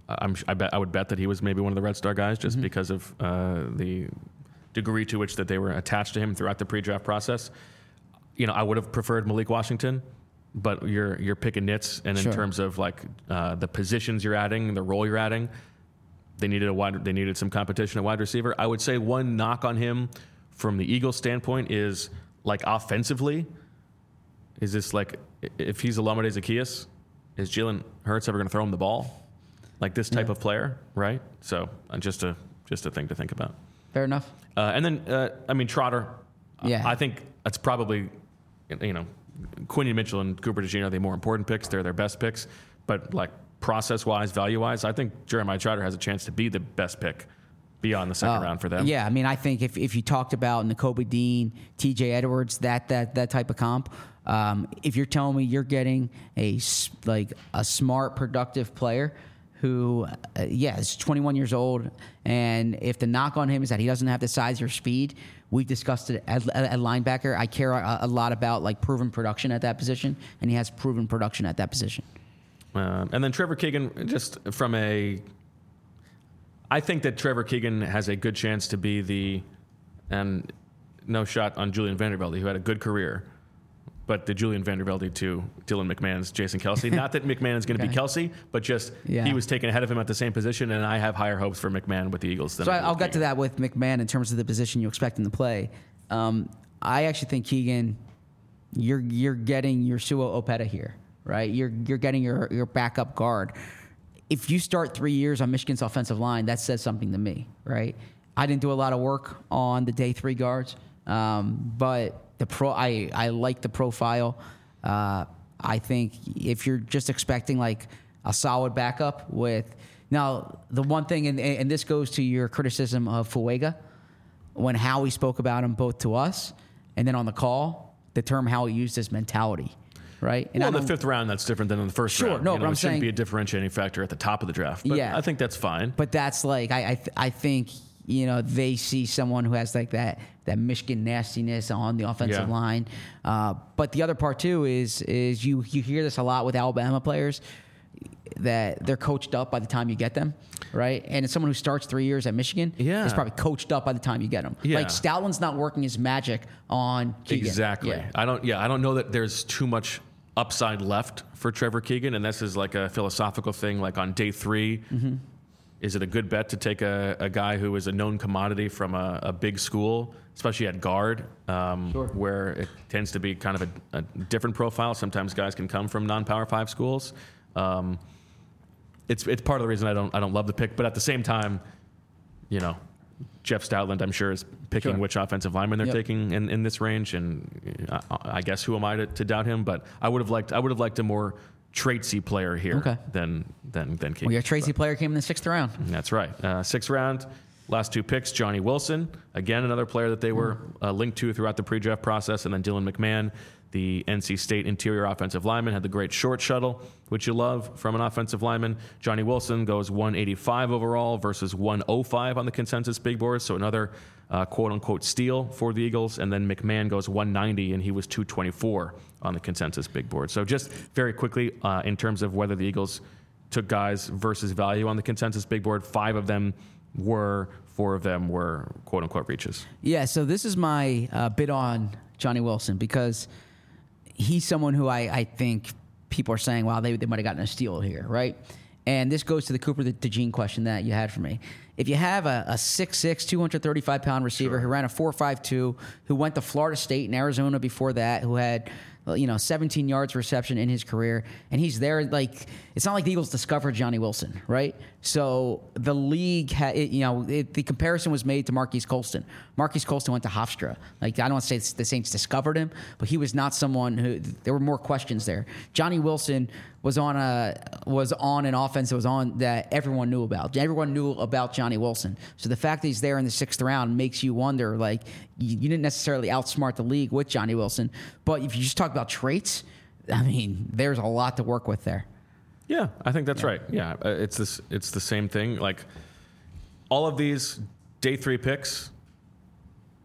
I'm, I bet I would bet that he was maybe one of the Red Star guys just mm-hmm. because of uh, the degree to which that they were attached to him throughout the pre-draft process. You know, I would have preferred Malik Washington, but you're you're picking nits, and in Sure. terms of like uh, the positions you're adding, the role you're adding, they needed a wide they needed some competition at wide receiver. I would say one knock on him from the Eagles' standpoint is like offensively. Is this like if he's Olamide Zaccheaus, is Jalen Hurts ever going to throw him the ball? Like this type Yeah. of player, right? So uh, just a just a thing to think about. Fair enough. Uh, and then uh, I mean Trotter. Yeah. I think that's probably you know Quinion Mitchell and Cooper DeJean are the more important picks. They're their best picks, but like process wise, value wise, I think Jeremiah Trotter has a chance to be the best pick beyond the second Uh, round for them. Yeah, I mean, I think if, if you talked about Nakobe Dean, T J Edwards, that that that type of comp, um, if you're telling me you're getting a s- like a smart, productive player who, uh, yeah, is twenty-one years old, and if the knock on him is that he doesn't have the size or speed, we've discussed it at, at, at linebacker. I care a, a lot about like proven production at that position, and he has proven production at that position. Um, and then Trevor Keegan, just from a, I think that Trevor Keegan has a good chance to be the, and no shot on Julian Vandervelde, who had a good career, but the Julian Vandervelde to Dylan McMahon's Jason Kelce. Not that McMahon is going to Okay. be Kelce, but just Yeah. he was taken ahead of him at the same position, and I have higher hopes for McMahon with the Eagles than So I I, do I'll with get to Keegan. that with McMahon in terms of the position you expect him to play. Um, I actually think Keegan, you're you're getting your Sua Opeta here, right? You're you're getting your your backup guard. If you start three years on Michigan's offensive line, that says something to me, right? I didn't do a lot of work on the day three guards, um, but the pro I I like the profile. Uh, I think if you're just expecting like a solid backup with now the one thing, and, and this goes to your criticism of Fuega, when Howie spoke about him both to us and then on the call, the term Howie used is mentality, right? And Well, I in the don't- fifth round, that's different than in the first Sure, round. no, You but know, I'm it shouldn't saying- be a differentiating factor at the top of the draft. But Yeah. I think that's fine. But that's like I I, th- I think you know they see someone who has like that that Michigan nastiness on the offensive Yeah. line. Uh, but the other part too is is you you hear this a lot with Alabama players that they're coached up by the time you get them, right? And it's someone who starts three years at Michigan Yeah. is probably coached up by the time you get them. Yeah. Like Stoutland's not working his magic on Keegan. Exactly. Yeah. I don't. Yeah, I don't know that there's too much upside left for Trevor Keegan, and this is like a philosophical thing. Like on day three, Mm-hmm. is it a good bet to take a, a guy who is a known commodity from a, a big school, especially at guard, um, Sure. where it tends to be kind of a, a different profile? Sometimes guys can come from non-power five schools. Um, it's it's part of the reason I don't I don't love the pick, but at the same time, you know, Jeff Stoutland, I'm sure, is picking Sure. which offensive lineman they're Yep. taking in, in this range, and I, I guess who am I to, to doubt him? But I would have liked I would have liked a more traitsy player here Okay. than than than Keegan. Well, your Tracy player came in the sixth round. That's right. Uh, sixth round, last two picks, Johnny Wilson, again another player that they were uh, linked to throughout the pre-draft process, and then Dylan McMahon, the N C State interior offensive lineman, had the great short shuttle, which you love from an offensive lineman. Johnny Wilson goes one eighty-five overall versus one oh five on the consensus big board, so another uh, quote-unquote steal for the Eagles. And then McMahon goes one ninety, and he was two twenty-four on the consensus big board. So just very quickly, uh, in terms of whether the Eagles took guys versus value on the consensus big board, five of them were, four of them were quote-unquote reaches. Yeah, so this is my uh, bid on Johnny Wilson because he's someone who I, I think people are saying, wow, they, they might have gotten a steal here, right? And this goes to the Cooper DeJean question that you had for me. If you have a, a six six, two hundred thirty-five pound receiver Sure. who ran a four five two, who went to Florida State and Arizona before that, who had you know seventeen yards reception in his career, and he's there, like, it's not like the Eagles discovered Johnny Wilson, right? So the league had, it, you know, it, the comparison was made to Marquise Colston. Marquise Colston went to Hofstra. Like, I don't want to say the Saints discovered him, but he was not someone who, there were more questions there. Johnny Wilson was on a was on an offense that was on that everyone knew about. Everyone knew about Johnny Wilson. So the fact that he's there in the sixth round makes you wonder, like, you, you didn't necessarily outsmart the league with Johnny Wilson, but if you just talk about traits, I mean, there's a lot to work with there. Yeah, I think that's right. Yeah, uh, it's this. It's the same thing. Like all of these day three picks,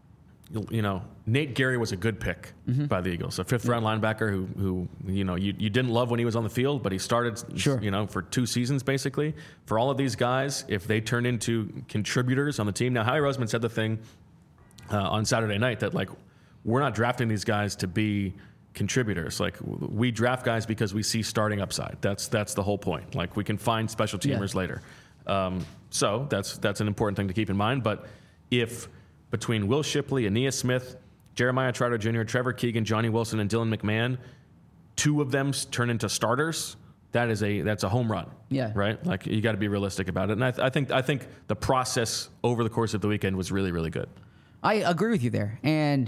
you know, Nate Gary was a good pick mm-hmm. by the Eagles, a fifth round linebacker who, who you know, you, you didn't love when he was on the field, but he started, sure. you know, for two seasons basically. For all of these guys, if they turn into contributors on the team. Now, Howie Roseman said the thing uh, on Saturday night that, like, we're not drafting these guys to be contributors. Like, we draft guys because we see starting upside. That's that's the whole point. Like, we can find special teamers yeah. later. Um, so that's that's an important thing to keep in mind. But if between Will Shipley, Aeneas Smith, Jeremiah Trotter Junior, Trevor Keegan, Johnny Wilson, and Dylan McMahon, two of them turn into starters, that is a that's a home run. Yeah. Right? Like, you got to be realistic about it. And I, th- I think I think the process over the course of the weekend was really, really good. I agree with you there. And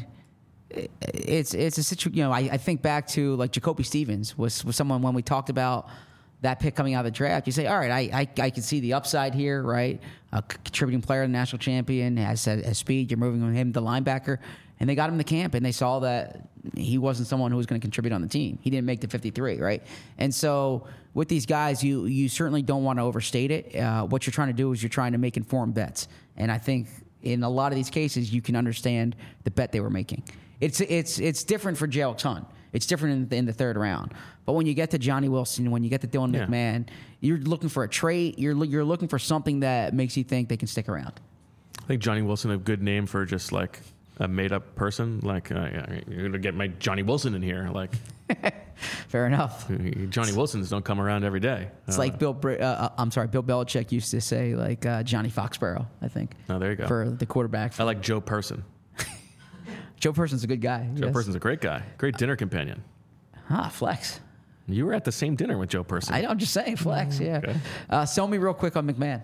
it's it's a situation, you know, I, I think back to, like, Jacoby Stevens was, was someone when we talked about that pick coming out of the draft, you say, all right, I I, I can see the upside here, right? A contributing player, the national champion, has, has speed. You're moving him to linebacker. And they got him to camp, and they saw that he wasn't someone who was going to contribute on the team. He didn't make the fifty-three, right? And so with these guys, you you certainly don't want to overstate it. Uh, what you're trying to do is you're trying to make informed bets. And I think in a lot of these cases, you can understand the bet they were making. It's it's it's different for Jalen Hunt. It's different in the, in the third round. But when you get to Johnny Wilson, when you get to Dylan yeah. McMahon, you're looking for a trait. You're you're looking for something that makes you think they can stick around. I think Johnny Wilson a good name for just like a made-up person. Like, uh, you're going to get my Johnny Wilson in here. Like, fair enough. Johnny Wilsons don't come around every day. It's uh, like Bill. Uh, I'm sorry, Bill Belichick used to say, like, uh, Johnny Foxborough, I think. Oh, there you go. For the quarterback. I like Joe Person. Joe Person's a good guy. Joe yes. Person's a great guy. Great dinner companion. Ah, flex. You were at the same dinner with Joe Person. I, I'm just saying, flex, yeah. Okay. Uh, sell me real quick on McMahon.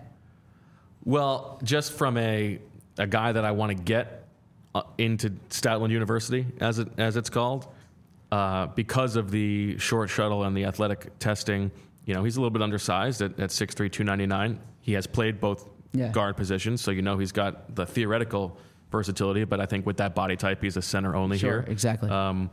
Well, just from a a guy that I want to get uh, into Stoutland University, as it as it's called, uh, because of the short shuttle and the athletic testing. You know, he's a little bit undersized at, at six three, two ninety-nine. He has played both yeah. guard positions, so you know he's got the theoretical versatility, but I think with that body type, he's a center only sure, here. Exactly. Um,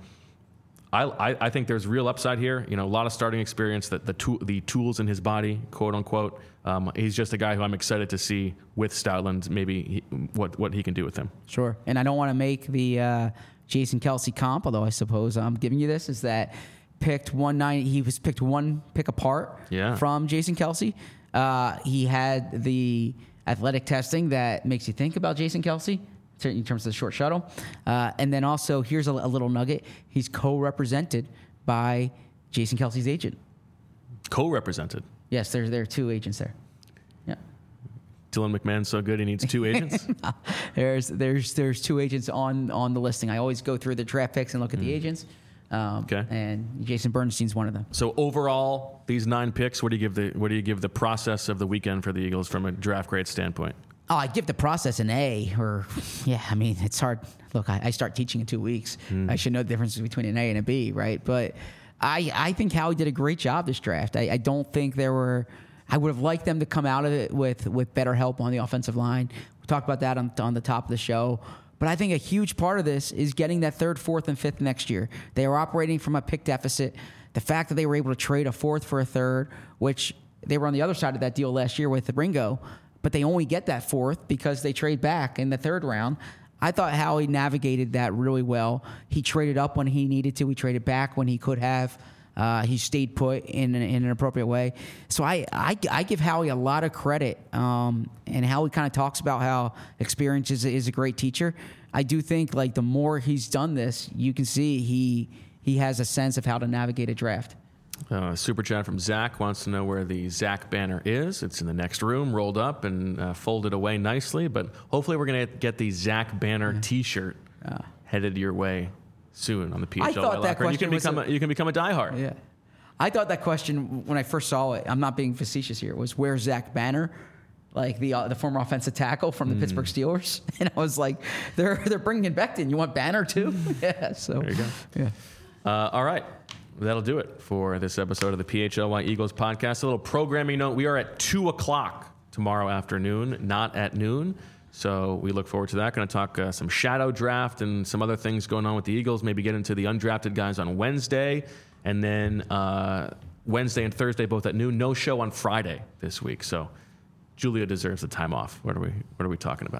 I, I I think there's real upside here. You know, a lot of starting experience. That the tool, the tools in his body, quote unquote. Um, he's just a guy who I'm excited to see with Stoutland. Maybe he, what what he can do with him. Sure. And I don't want to make the uh, Jason Kelce comp, although I suppose I'm giving you this. Is that picked one nine? He was picked one pick apart yeah. from Jason Kelce. Uh, he had the athletic testing that makes you think about Jason Kelce in terms of the short shuttle. Uh, and then also, here's a, a little nugget. He's co-represented by Jason Kelce's agent. Co-represented? Yes, there, there are two agents there. Yeah. Dylan McMahon's so good he needs two agents? there's there's there's two agents on, on the listing. I always go through the draft picks and look at mm. the agents. Um, okay. And Jason Bernstein's one of them. So overall, these nine picks, what do you give the what do you give the process of the weekend for the Eagles from a draft grade standpoint? Oh, I give the process an A, or yeah, I mean, it's hard. Look, I, I start teaching in two weeks. Mm. I should know the difference between an A and a B, right? But I, I think Howie did a great job this draft. I, I don't think there were. I would have liked them to come out of it with with better help on the offensive line. We talked about that on on the top of the show. But I think a huge part of this is getting that third, fourth, and fifth next year. They are operating from a pick deficit. The fact that they were able to trade a fourth for a third, which they were on the other side of that deal last year with Ringo. But they only get that fourth because they trade back in the third round. I thought Howie navigated that really well. He traded up when he needed to. He traded back when he could have. Uh, he stayed put in an, in an appropriate way. So I, I, I give Howie a lot of credit. Um, and Howie kind of talks about how experience is, is a great teacher. I do think like the more he's done this, you can see he he has a sense of how to navigate a draft. Uh, super chat from Zach wants to know where the Zach banner is. It's in the next room, rolled up and uh, folded away nicely. But hopefully, we're going to get the Zach banner yeah. T-shirt uh, headed your way soon on the P H L. I thought that question you can become a, a, you can become a diehard. Yeah, I thought that question when I first saw it. I'm not being facetious here. Was where's Zach Banner? Like the uh, the former offensive tackle from the mm. Pittsburgh Steelers, and I was like, they're they're bringing Becton. You want Banner too? yeah. So there you go. Yeah. Uh, all right. That'll do it for this episode of the P H L Y Eagles podcast. A little programming note. We are at two o'clock tomorrow afternoon, not at noon. So we look forward to that. Going to talk uh, some shadow draft and some other things going on with the Eagles. Maybe get into the undrafted guys on Wednesday. And then uh, Wednesday and Thursday both at noon. No show on Friday this week. So Julia deserves the time off. What are we, what are we talking about?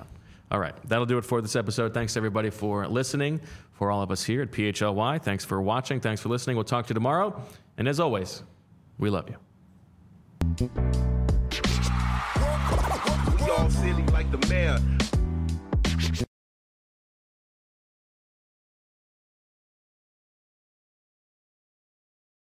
All right, that'll do it for this episode. Thanks, everybody, for listening. For all of us here at P H L Y, thanks for watching. Thanks for listening. We'll talk to you tomorrow. And as always, we love you. We all silly like the mayor.